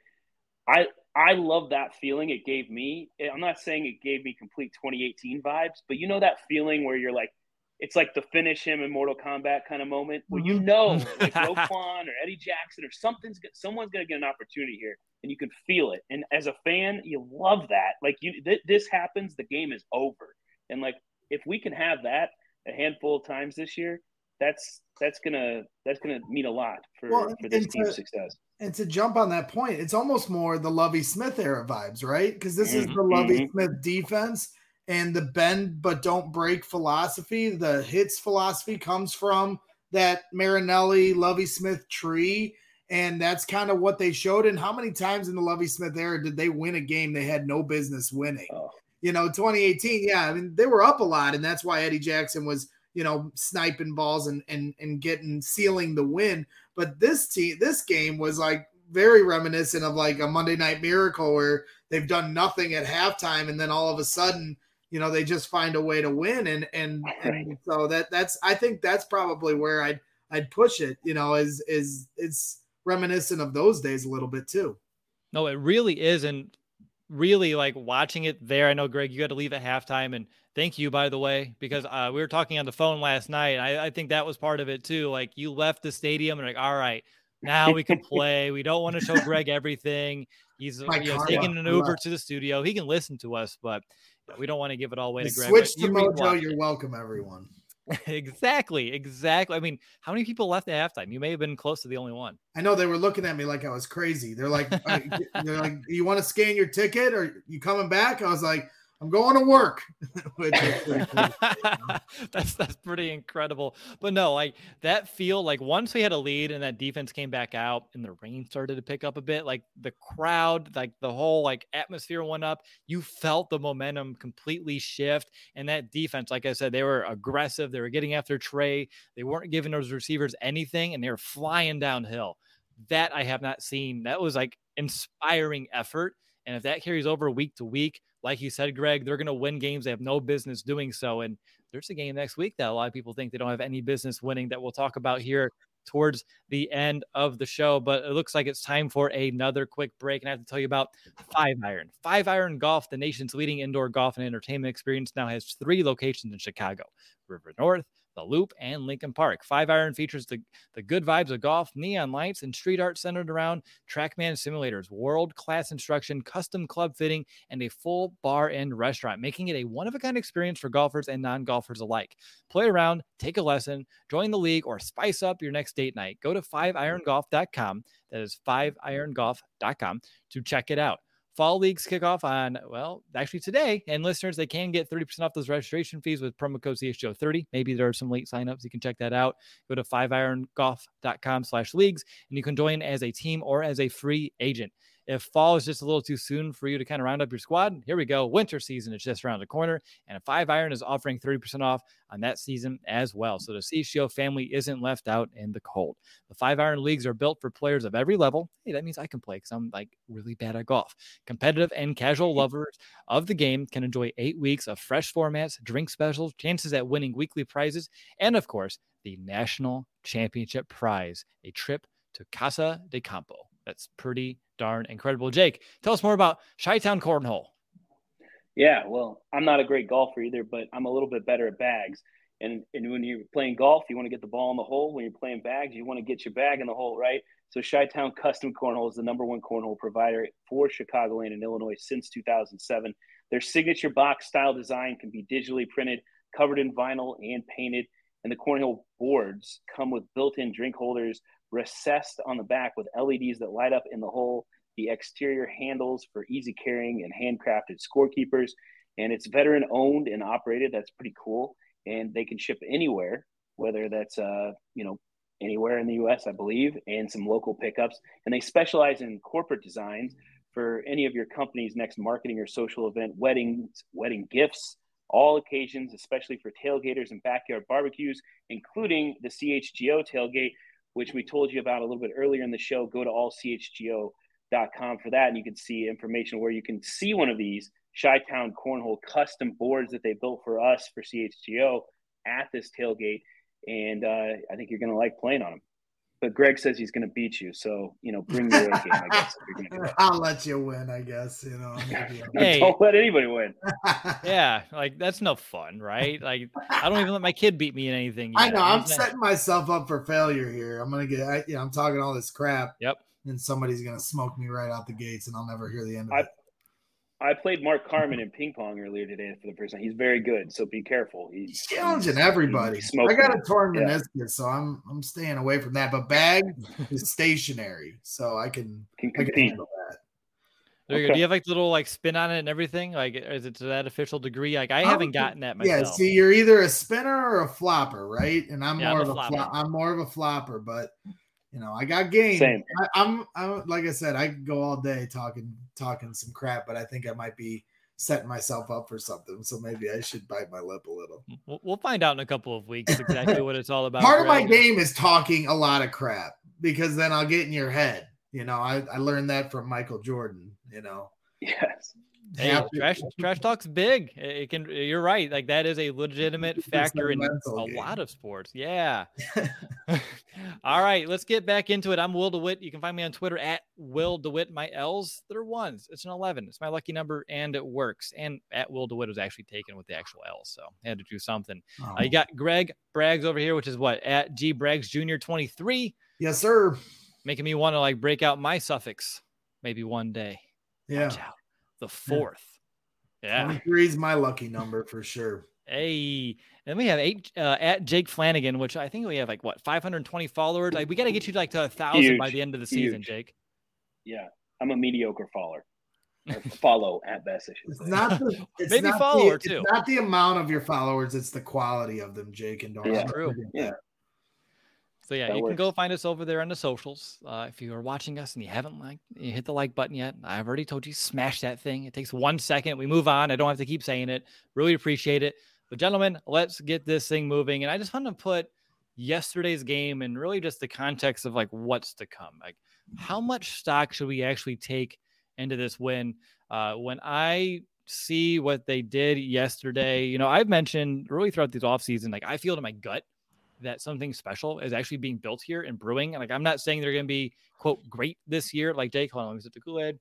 I love that feeling it gave me. I'm not saying it gave me complete 2018 vibes, but you know that feeling where you're like, it's like the finish him in Mortal Kombat kind of moment where you know, like Roquan or Eddie Jackson or someone's going to get an opportunity here, and you can feel it. And as a fan, you love that. Like, this happens, the game is over. And like, if we can have that a handful of times this year, that's gonna mean a lot for this team's success. And to jump on that point, it's almost more the Lovie Smith era vibes, right? Because this is the Lovie Smith defense. And the bend but don't break philosophy, the hits philosophy, comes from that Marinelli, Lovie Smith tree. And that's kind of what they showed. And how many times in the Lovie Smith era did they win a game they had no business winning? 2018, I mean, they were up a lot. And that's why Eddie Jackson was, sniping balls and sealing the win. But this game was like very reminiscent of like a Monday Night Miracle where they've done nothing at halftime. And then all of a sudden, they just find a way to win. And so that's, I think that's probably where I'd push it, is it's reminiscent of those days a little bit too. No, it really is. And really, like, watching it there, I know, Greg, you had to leave at halftime, and thank you, by the way, because we were talking on the phone last night. And I think that was part of it too. Like, you left the stadium and like, all right, now we can play. We don't want to show Greg everything. He's taking an Uber to the studio. He can listen to us, but we don't want to give it all away to Greg. Switch to Mojo. You're welcome, everyone. Exactly. I mean, how many people left at halftime? You may have been close to the only one. I know they were looking at me like I was crazy. They're like, you want to scan your ticket or you coming back? I was like, I'm going to work. That's pretty incredible. But no, like that feel, like once we had a lead and that defense came back out and the rain started to pick up a bit, like the crowd, like the whole like atmosphere went up. You felt the momentum completely shift. And that defense, like I said, they were aggressive. They were getting after Trey. They weren't giving those receivers anything, and they were flying downhill. That I have not seen. That was like inspiring effort. And if that carries over week to week, like you said, Greg, they're going to win games they have no business doing so. And there's a game next week that a lot of people think they don't have any business winning that we'll talk about here towards the end of the show. But it looks like it's time for another quick break. And I have to tell you about 5-Iron. 5-Iron Golf, the nation's leading indoor golf and entertainment experience, now has 3 locations in Chicago: River North, The Loop, and Lincoln Park. 5-Iron features the good vibes of golf, neon lights, and street art centered around TrackMan simulators, world-class instruction, custom club fitting, and a full bar and restaurant, making it a one-of-a-kind experience for golfers and non-golfers alike. Play around, take a lesson, join the league, or spice up your next date night. Go to 5irongolf.com. That is 5irongolf.com to check it out. Fall leagues kick off on, well, actually today. And listeners, they can get 30% off those registration fees with promo code CHGO30. Maybe there are some late signups. You can check that out. Go to 5irongolf.com/leagues, and you can join as a team or as a free agent. If fall is just a little too soon for you to kind of round up your squad, here we go. Winter season is just around the corner, and 5-Iron is offering 30% off on that season as well. So the CHGO family isn't left out in the cold. The 5-Iron leagues are built for players of every level. Hey, that means I can play because I'm like really bad at golf. Competitive and casual lovers of the game can enjoy 8 weeks of fresh formats, drink specials, chances at winning weekly prizes, and of course, the national championship prize, a trip to Casa de Campo. That's pretty darn incredible. Jake, tell us more about Chi-Town Cornhole. Yeah, well, I'm not a great golfer either, but I'm a little bit better at bags. And when you're playing golf, you want to get the ball in the hole. When you're playing bags, you want to get your bag in the hole, right? So Chi-Town Custom Cornhole is the #1 cornhole provider for Chicagoland and Illinois since 2007. Their signature box style design can be digitally printed, covered in vinyl, and painted. And the cornhole boards come with built-in drink holders recessed on the back with LEDs that light up in the hole, the exterior handles for easy carrying, and handcrafted scorekeepers. And it's veteran owned and operated. That's pretty cool. And they can ship anywhere, whether that's, anywhere in the U.S., I believe, and some local pickups. And they specialize in corporate designs for any of your company's next marketing or social event, weddings, wedding gifts, all occasions, especially for tailgaters and backyard barbecues, including the CHGO tailgate, which we told you about a little bit earlier in the show. Go to allchgo.com for that, and you can see information where you can see one of these Chi-Town Cornhole custom boards that they built for us for CHGO at this tailgate. And I think you're going to like playing on them. But Greg says he's going to beat you, so bring your A game, I guess. If you're gonna do that. I'll let you win, I guess. Hey, don't let anybody win. Yeah, like that's no fun, right? Like I don't even let my kid beat me in anything yet. I know. I'm setting myself up for failure here. I'm gonna get. I'm talking all this crap. Yep. And somebody's gonna smoke me right out the gates, and I'll never hear the end of it. I played Mark Carmen in ping pong earlier today for the first time. He's very good, so be careful. He's challenging everybody. I got a torn meniscus, so I'm staying away from that. But bag is stationary, so I can handle that. Okay. Do you have like little like spin on it and everything? Like, is it to that official degree? Like, I haven't gotten that myself. Yeah, see, you're either a spinner or a flopper, right? And I'm more of a flopper, but I got game. Same. I'm like I said, I can go all day talking some crap, but I think I might be setting myself up for something. So maybe I should bite my lip a little. We'll find out in a couple of weeks exactly what it's all about. Part of my game is talking a lot of crap because then I'll get in your head. I learned that from Michael Jordan. Yes. Hey, trash talk's big. It can. You're right. Like that is a legitimate factor in a lot of sports. Yeah. All right, let's get back into it. I'm Will DeWitt. You can find me on Twitter at Will DeWitt. My L's, they're ones. It's an 11. It's my lucky number, and it works. And at Will DeWitt was actually taken with the actual L, so I had to do something. You got Greg Braggs over here, which is what? At G Braggs Jr. 23. Yes, sir. Making me want to like break out my suffix maybe one day. Yeah. Watch out. The 4th. Yeah. 23 is my lucky number for sure. Hey, and we have at Jake Flanagan, which I think we have 520 followers. We got to get you to 1,000 by the end of the season, Jake. Yeah, I'm a mediocre follower. Follow at best. It's not the maybe follower too. It's not the amount of your followers; it's the quality of them, Jake. And yeah, true. Yeah. So yeah, you can go find us over there on the socials. If you are watching us and you haven't you hit the like button yet. I've already told you, smash that thing. It takes 1 second. We move on. I don't have to keep saying it. Really appreciate it. But gentlemen, let's get this thing moving. And I just want to put yesterday's game and really just the context of what's to come. How much stock should we actually take into this win? When I see what they did yesterday, I've mentioned really throughout this offseason, I feel to my gut that something special is actually being built here in brewing. And I'm not saying they're going to be, quote, great this year. Jake, hold on, let me sip the Kool-Aid.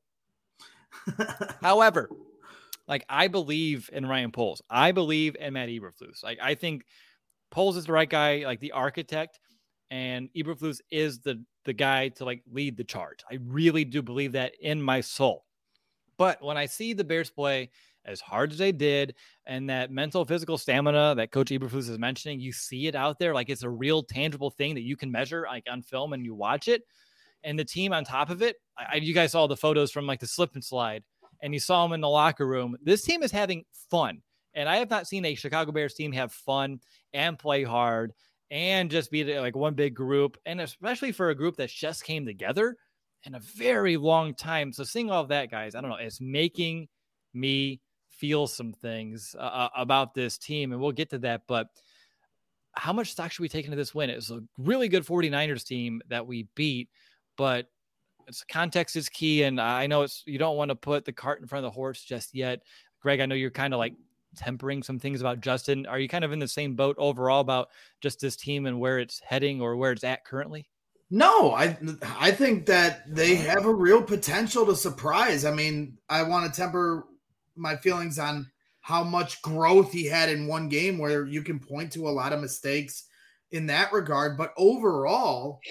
However, I believe in Ryan Poles. I believe in Matt Eberflus. I think Poles is the right guy, the architect, and Eberflus is the guy to lead the charge. I really do believe that in my soul. But when I see the Bears play as hard as they did, and that mental, physical stamina that Coach Eberflus is mentioning, you see it out there. It's a real tangible thing that you can measure on film and you watch it. And the team on top of it, you guys saw the photos from the slip and slide, and you saw them in the locker room. This team is having fun. And I have not seen a Chicago Bears team have fun and play hard and just be one big group. And especially for a group that just came together in a very long time. So seeing all of that, guys, I don't know, it's making me feel some things about this team, and we'll get to that. But how much stock should we take into this win? It's a really good 49ers team that we beat, but context is key. And I know you don't want to put the cart in front of the horse just yet. Greg, I know you're kind of tempering some things about Justin. Are you kind of in the same boat overall about just this team and where it's heading or where it's at currently? No, I think that they have a real potential to surprise. I mean, I want to temper my feelings on how much growth he had in one game where you can point to a lot of mistakes in that regard. But overall,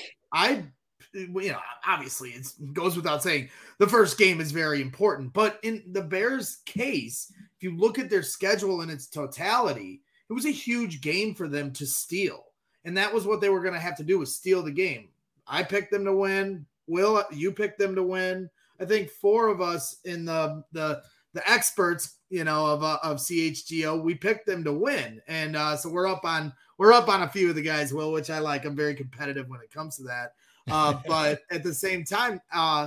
obviously it goes without saying the first game is very important. But in the Bears' case, if you look at their schedule in its totality, it was a huge game for them to steal. And that was what they were going to have to do, was steal the game. I picked them to win. Will, you picked them to win. I think four of us in the experts, of CHGO, we picked them to win, and so we're up on a few of the guys, Will, which I like. I'm very competitive when it comes to that. But at the same time,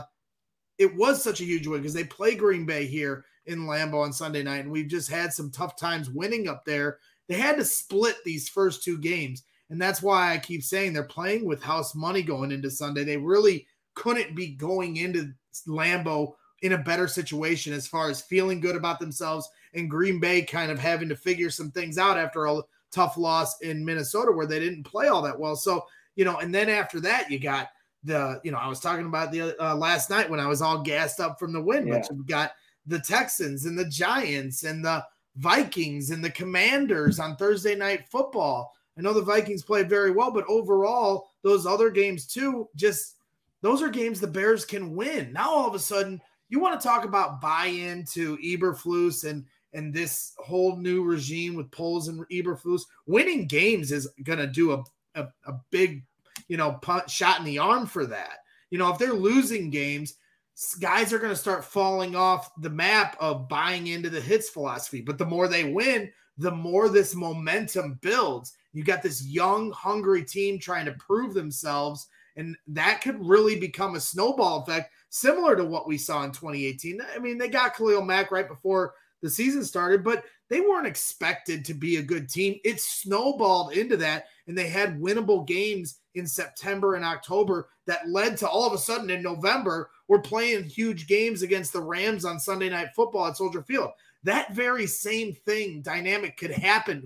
it was such a huge win because they play Green Bay here in Lambeau on Sunday night, and we've just had some tough times winning up there. They had to split these first two games. And that's why I keep saying they're playing with house money going into Sunday. They really couldn't be going into Lambeau in a better situation as far as feeling good about themselves, and Green Bay kind of having to figure some things out after a tough loss in Minnesota where they didn't play all that well. So, and then after that, you got I was talking about the last night when I was all gassed up from the win, but you've got the Texans and the Giants and the Vikings and the Commanders on Thursday Night Football. I know the Vikings played very well, but overall, those other games too, those are games the Bears can win. Now, all of a sudden, you want to talk about buy-in to Eberflus and this whole new regime with Poles and Eberflus. Winning games is going to do a big, shot in the arm for that. If they're losing games, guys are going to start falling off the map of buying into the hits philosophy. But the more they win, the more this momentum builds. You got this young, hungry team trying to prove themselves, and that could really become a snowball effect, similar to what we saw in 2018. I mean, they got Khalil Mack right before the season started, but they weren't expected to be a good team. It snowballed into that, and they had winnable games in September and October that led to all of a sudden in November, we're playing huge games against the Rams on Sunday Night Football at Soldier Field. That very same dynamic could happen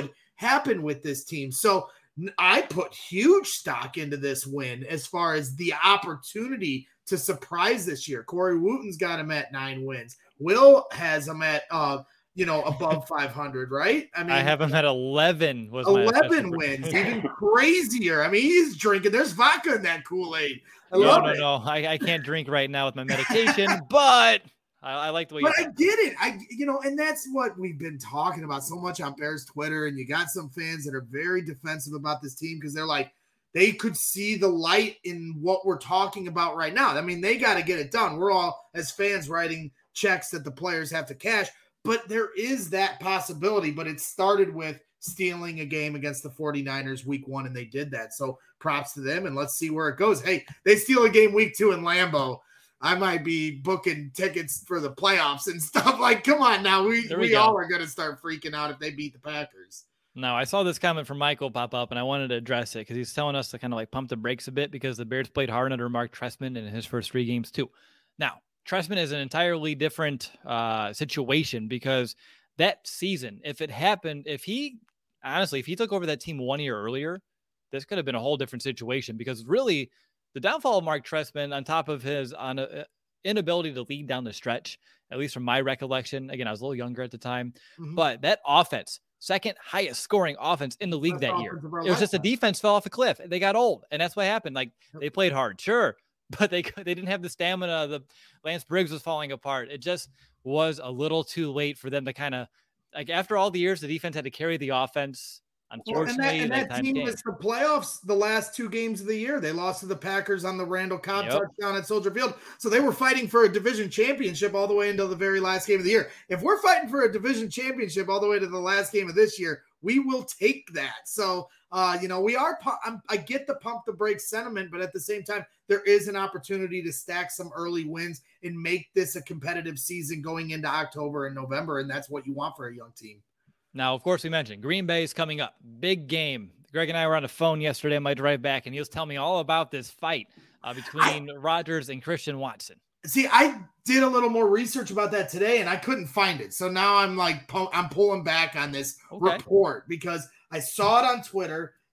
with this team. So I put huge stock into this win as far as the opportunity to surprise this year. Corey Wooten's got him at 9 wins. Will has him at above 500, right? I mean, I have him at 11. 11 wins, even crazier. I mean, he's drinking. There's vodka in that Kool-Aid. No. I can't drink right now with my medication, but I like the way. But I get it. And that's what we've been talking about so much on Bears Twitter. And you got some fans that are very defensive about this team because they're like, they could see the light in what we're talking about right now. I mean, they got to get it done. We're all, as fans, writing checks that the players have to cash. But there is that possibility. But it started with stealing a game against the 49ers week 1, and they did that. So props to them, and let's see where it goes. Hey, they steal a game week 2 in Lambeau. I might be booking tickets for the playoffs and stuff. Like, come on now. We all are going to start freaking out if they beat the Packers. Now, I saw this comment from Michael pop up, and I wanted to address it because he's telling us to kind of like pump the brakes a bit because the Bears played hard under Mark Trestman in his first 3 games too. Now, Trestman is an entirely different situation because that season, if he took over that team 1 year earlier, this could have been a whole different situation because really the downfall of Mark Trestman, on top of his inability to lead down the stretch, at least from my recollection, again, I was a little younger at the time, but that offense, second highest scoring offense in the league that year. It was just the defense fell off a cliff. They got old, and that's what happened. Like, they played hard, sure, but they didn't have the stamina. The Lance Briggs was falling apart. It just was a little too late for them to kind of, like, after all the years, the defense had to carry the offense. Unfortunately, that team missed the playoffs the last 2 games of the year. They lost to the Packers on the Randall Cobb touchdown at Soldier Field. So they were fighting for a division championship all the way until the very last game of the year. If we're fighting for a division championship all the way to the last game of this year, we will take that. So, we are. I get the pump the brakes sentiment, but at the same time, there is an opportunity to stack some early wins and make this a competitive season going into October and November, and that's what you want for a young team. Now, of course, we mentioned Green Bay is coming up. Big game. Greg and I were on the phone yesterday on my drive back, and he was telling me all about this fight between Rodgers and Christian Watson. See, I did a little more research about that today, and I couldn't find it. So now I'm like, I'm pulling back on this report because I saw it on Twitter.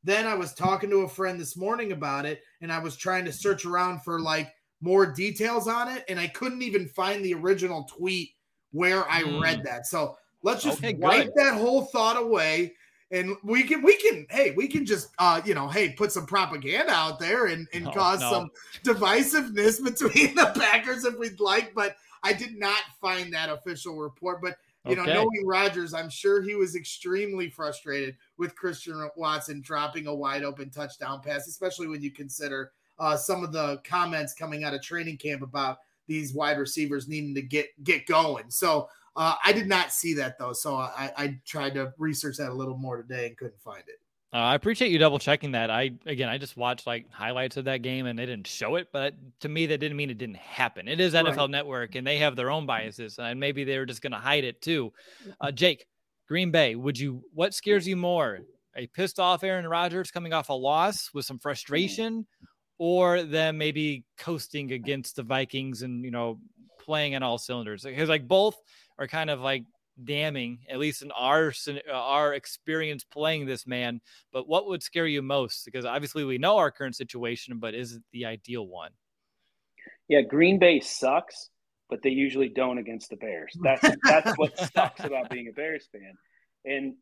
then I was talking to a friend this morning about it, and I was trying to search around for like more details on it, and I couldn't even find the original tweet where I read that. So let's just wipe that whole thought away. And we can just put some propaganda out there and cause some divisiveness between the Packers if we'd like. But I did not find that official report. But knowing Rodgers, I'm sure he was extremely frustrated with Christian Watson dropping a wide open touchdown pass, especially when you consider some of the comments coming out of training camp about these wide receivers needing to get going. So I did not see that, though. So I tried to research that a little more today and couldn't find it. I appreciate you double checking that. I just watched like highlights of that game and they didn't show it, but to me, that didn't mean it didn't happen. It is NFL Network and they have their own biases and maybe they were just going to hide it too. Jake, Green Bay, what scares you more? A pissed off Aaron Rodgers coming off a loss with some frustration, or them maybe coasting against the Vikings and, playing on all cylinders? Because like both are kind of like damning, at least in our experience playing this man. But what would scare you most? Because obviously we know our current situation, but is it the ideal one? Yeah, Green Bay sucks, but they usually don't against the Bears. That's what sucks about being a Bears fan. And,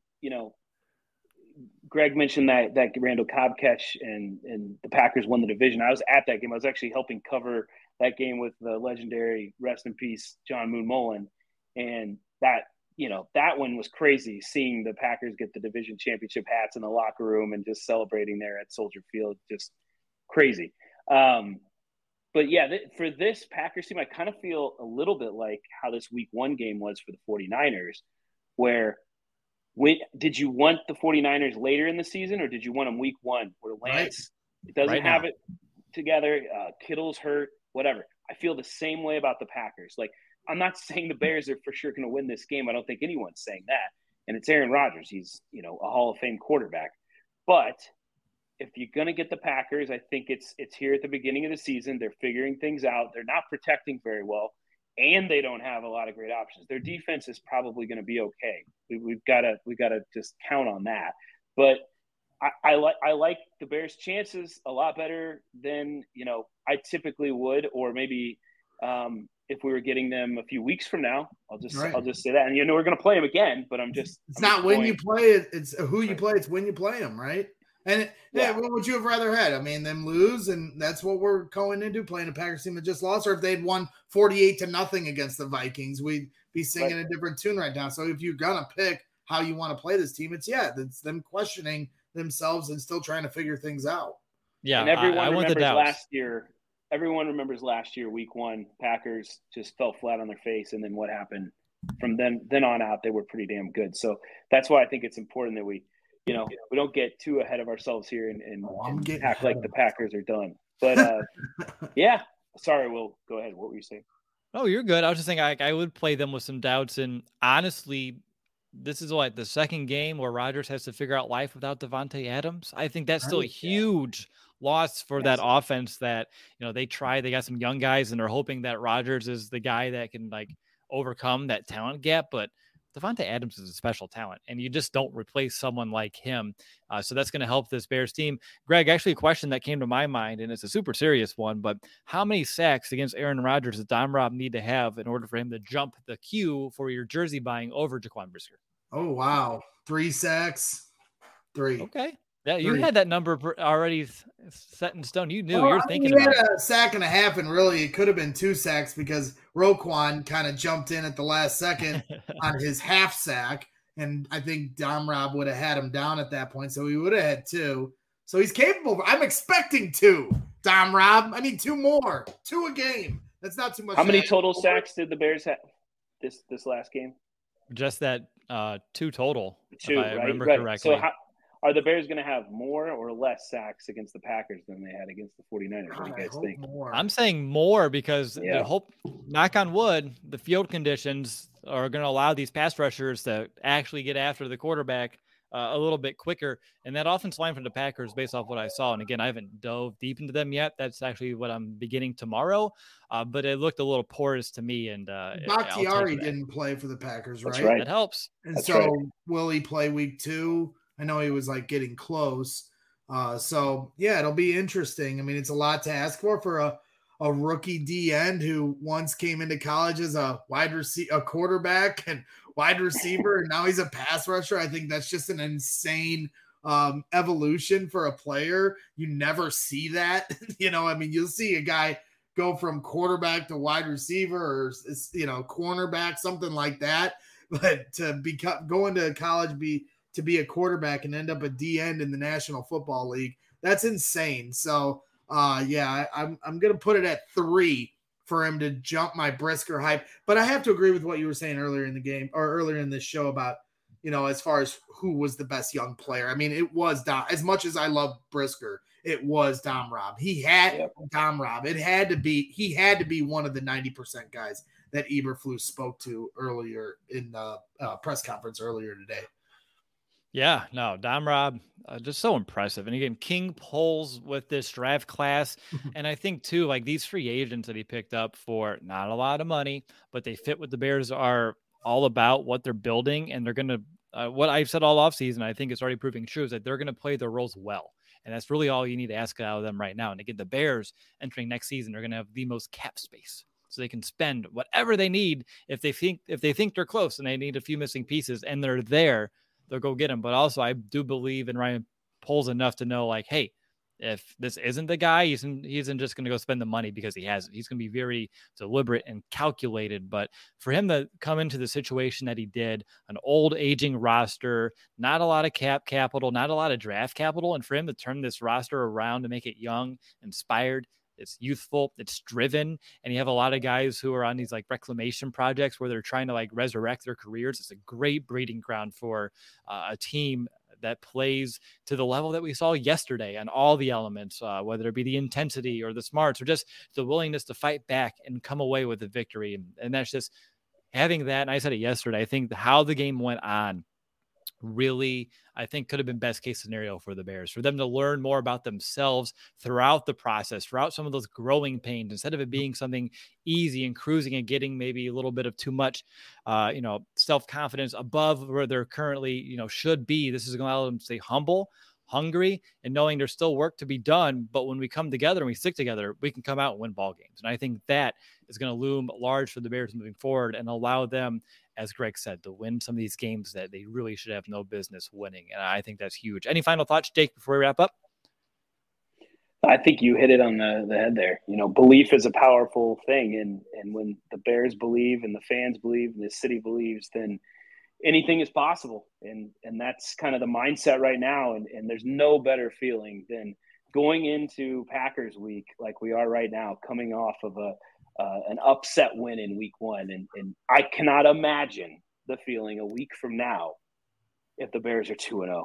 Greg mentioned that Randall Cobb catch and the Packers won the division. I was at that game. I was actually helping cover that game with the legendary, rest in peace, John Moon Mullen. And that one was crazy, seeing the Packers get the division championship hats in the locker room and just celebrating there at Soldier Field. Just crazy. But yeah, for this Packers team, I kind of feel a little bit like how this week 1 game was for the 49ers, where did you want the 49ers later in the season, or did you want them week 1 where Lance doesn't have it together, Kittle's hurt, whatever? I feel the same way about the Packers. Like, I'm not saying the Bears are for sure going to win this game. I don't think anyone's saying that. And it's Aaron Rodgers. He's, a Hall of Fame quarterback. But if you're going to get the Packers, I think it's here at the beginning of the season. They're figuring things out. They're not protecting very well, and they don't have a lot of great options. Their defense is probably going to be okay. We've got to just count on that. But I like the Bears' chances a lot better than I typically would, or maybe if we were getting them a few weeks from now. I'll just say that. And we're going to play them again, but it's not when you play it, it's who you play. It's when you play them, right? And what would you have rather had? I mean, them lose, and that's what we're going into, playing a Packers team that just lost. Or if they'd won 48-0 against the Vikings, we'd be singing a different tune right now. So if you're gonna pick how you want to play this team, it's them questioning themselves and still trying to figure things out. Yeah, and everyone remembers last year. Everyone remembers last year, week 1, Packers just fell flat on their face, and then what happened from then on out? They were pretty damn good. So that's why I think it's important that we don't get too ahead of ourselves here and act like the Packers are done. But yeah, sorry, Will, go ahead. What were you saying? Oh, you're good. I was just saying I would play them with some doubts. And honestly, this is the second game where Rodgers has to figure out life without Davante Adams. I think that's still a huge loss for that offense that, they got some young guys and they're hoping that Rodgers is the guy that can overcome that talent gap. But Davante Adams is a special talent, and you just don't replace someone like him. So that's going to help this Bears team. Greg, actually a question that came to my mind, and it's a super serious one, but how many sacks against Aaron Rodgers does Dom Rob need to have in order for him to jump the queue for your jersey buying over Jaquan Brisker? Oh, wow. 3 sacks. 3. Okay. Yeah, you had that number already set in stone. You knew you're thinking about a sack and a half, and really it could have been 2 sacks because Roquan kind of jumped in at the last second on his half sack, and I think Dom Rob would have had him down at that point, so he would have had 2. So he's capable. I'm expecting 2. Dom Rob, I need 2 more. 2 a game. That's not too much. How many total sacks did the Bears have this last game? Just that 2 total. 2, if I remember correctly. So are the Bears going to have more or less sacks against the Packers than they had against the 49ers? What do you guys think? More. I'm saying more because the hope, knock on wood, the field conditions are going to allow these pass rushers to actually get after the quarterback a little bit quicker. And that offensive line from the Packers, based off what I saw, and again, I haven't dove deep into them yet. That's actually what I'm beginning tomorrow. But it looked a little porous to me. And Bakhtiari didn't play for the Packers, right? That's right. That helps. And will he play week 2? I know he was getting close, So yeah, it'll be interesting. I mean, it's a lot to ask for a rookie D end who once came into college as a a quarterback and wide receiver, and now he's a pass rusher. I think that's just an insane evolution for a player. You never see that. I mean, you'll see a guy go from quarterback to wide receiver or, cornerback, something like that. But to go into college, to be a quarterback and end up a D end in the National Football League, that's insane. So, I'm going to put it at 3 for him to jump my Brisker hype. But I have to agree with what you were saying earlier in the game or earlier in this show about, as far as who was the best young player. I mean, it was Dom. As much as I love Brisker, it was Dom Robb. He had Dom Robb. He had to be one of the 90% guys that Eberflus spoke to earlier in the press conference earlier today. Yeah, no, Dom Robb, just so impressive. And again, King pulls with this draft class. And I think too, like these free agents that he picked up for not a lot of money, but they fit what the Bears are all about, what they're building. And they're going to, what I've said all offseason, I think it's already proving true, is that they're going to play their roles well. And that's really all you need to ask out of them right now. And again, the Bears entering next season are going to have the most cap space. So they can spend whatever they need if they think they're close and they need a few missing pieces and they're there, they'll go get them. But also I do believe in Ryan Poles enough to know, like, hey, if this isn't the guy, he isn't just going to go spend the money because he has it. He's going to be very deliberate and calculated. But for him to come into the situation that he did, an old aging roster, not a lot of cap capital, not a lot of draft capital, and for him to turn this roster around to make it young, inspired, it's youthful, it's driven, and you have a lot of guys who are on these like reclamation projects where they're trying to like resurrect their careers. It's a great breeding ground for a team that plays to the level that we saw yesterday on all the elements, whether it be the intensity or the smarts or just the willingness to fight back and come away with a victory. And that's just having that. And I said it yesterday, I think how the game went on really, I think, could have been best case scenario for the Bears, for them to learn more about themselves throughout the process, throughout some of those growing pains, instead of it being something easy and cruising and getting maybe a little bit of too much, self-confidence above where they're currently, should be. This is going to allow them to stay humble, hungry, and knowing there's still work to be done. But when we come together and we stick together, we can come out and win ball games. And I think that is going to loom large for the Bears moving forward and allow them, as Greg said, to win some of these games that they really should have no business winning. And I think that's huge. Any final thoughts, Jake, before we wrap up? I think you hit it on the head there. Belief is a powerful thing. And when the Bears believe and the fans believe and the city believes, then anything is possible. And that's kind of the mindset right now. And there's no better feeling than going into Packers week like we are right now, coming off of an upset win in week 1. And I cannot imagine the feeling a week from now if the Bears are 2-0.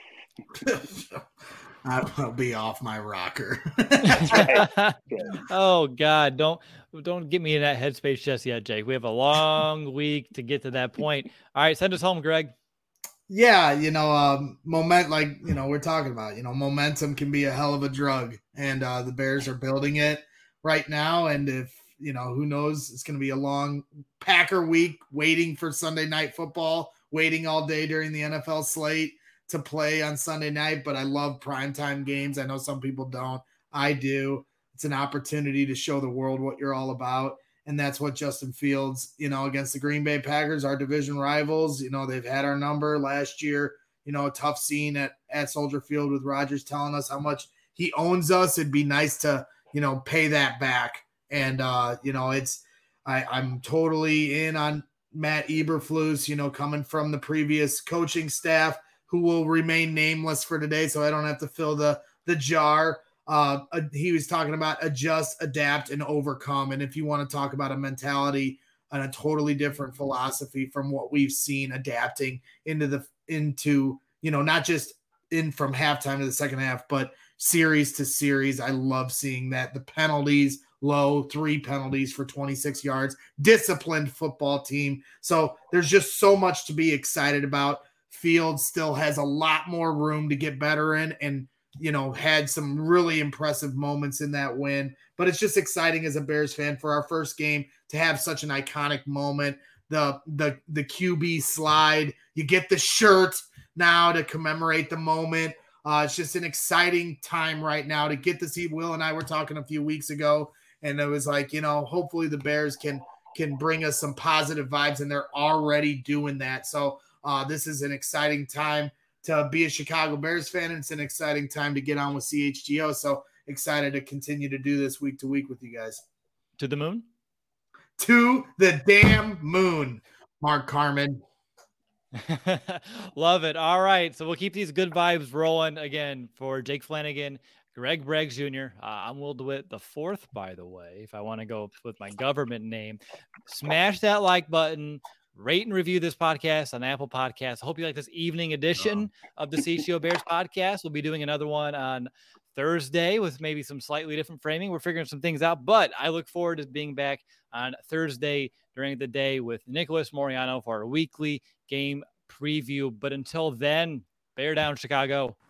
I'll be off my rocker. That's right. Oh God, don't get me in that headspace just yet, Jake. We have a long week to get to that point. All right, send us home, Greg. Yeah, we're talking about, momentum can be a hell of a drug, and the Bears are building it right now. And if, who knows, it's going to be a long Packer week, waiting for Sunday Night Football, waiting all day during the NFL slate to play on Sunday night. But I love primetime games. I know some people don't. I do. It's an opportunity to show the world what you're all about. And that's what Justin Fields, against the Green Bay Packers, our division rivals, they've had our number last year, a tough scene at Soldier Field with Rodgers telling us how much he owns us. It'd be nice to, pay that back. And, I'm totally in on Matt Eberflus, coming from the previous coaching staff, who will remain nameless for today, so I don't have to fill the jar. He was talking about adjust, adapt, and overcome. And if you want to talk about a mentality and a totally different philosophy from what we've seen adapting into not just in from halftime to the second half, but series to series. I love seeing that. The penalties, low, 3 penalties for 26 yards, disciplined football team. So there's just so much to be excited about. Fields still has a lot more room to get better in, and had some really impressive moments in that win. But it's just exciting as a Bears fan for our first game to have such an iconic moment. The QB slide, you get the shirt now to commemorate the moment. It's just an exciting time right now to get to see. Will and I were talking a few weeks ago, and it was like, hopefully the Bears can bring us some positive vibes, and they're already doing that. So this is an exciting time to be a Chicago Bears fan, and it's an exciting time to get on with CHGO. So excited to continue to do this week to week with you guys. To the moon? To the damn moon, Mark Carman. Love it. All right. So we'll keep these good vibes rolling again for Jake Flanagan, Greg Braggs Jr. I'm Will DeWitt the fourth, by the way, if I want to go with my government name. Smash that like button, rate and review this podcast on Apple Podcasts. I hope you like this evening edition of the CHGO Bears podcast. We'll be doing another one on Thursday with maybe some slightly different framing. We're figuring some things out, but I look forward to being back on Thursday during the day with Nicholas Moriano for our weekly game preview. But until then, bear down, Chicago.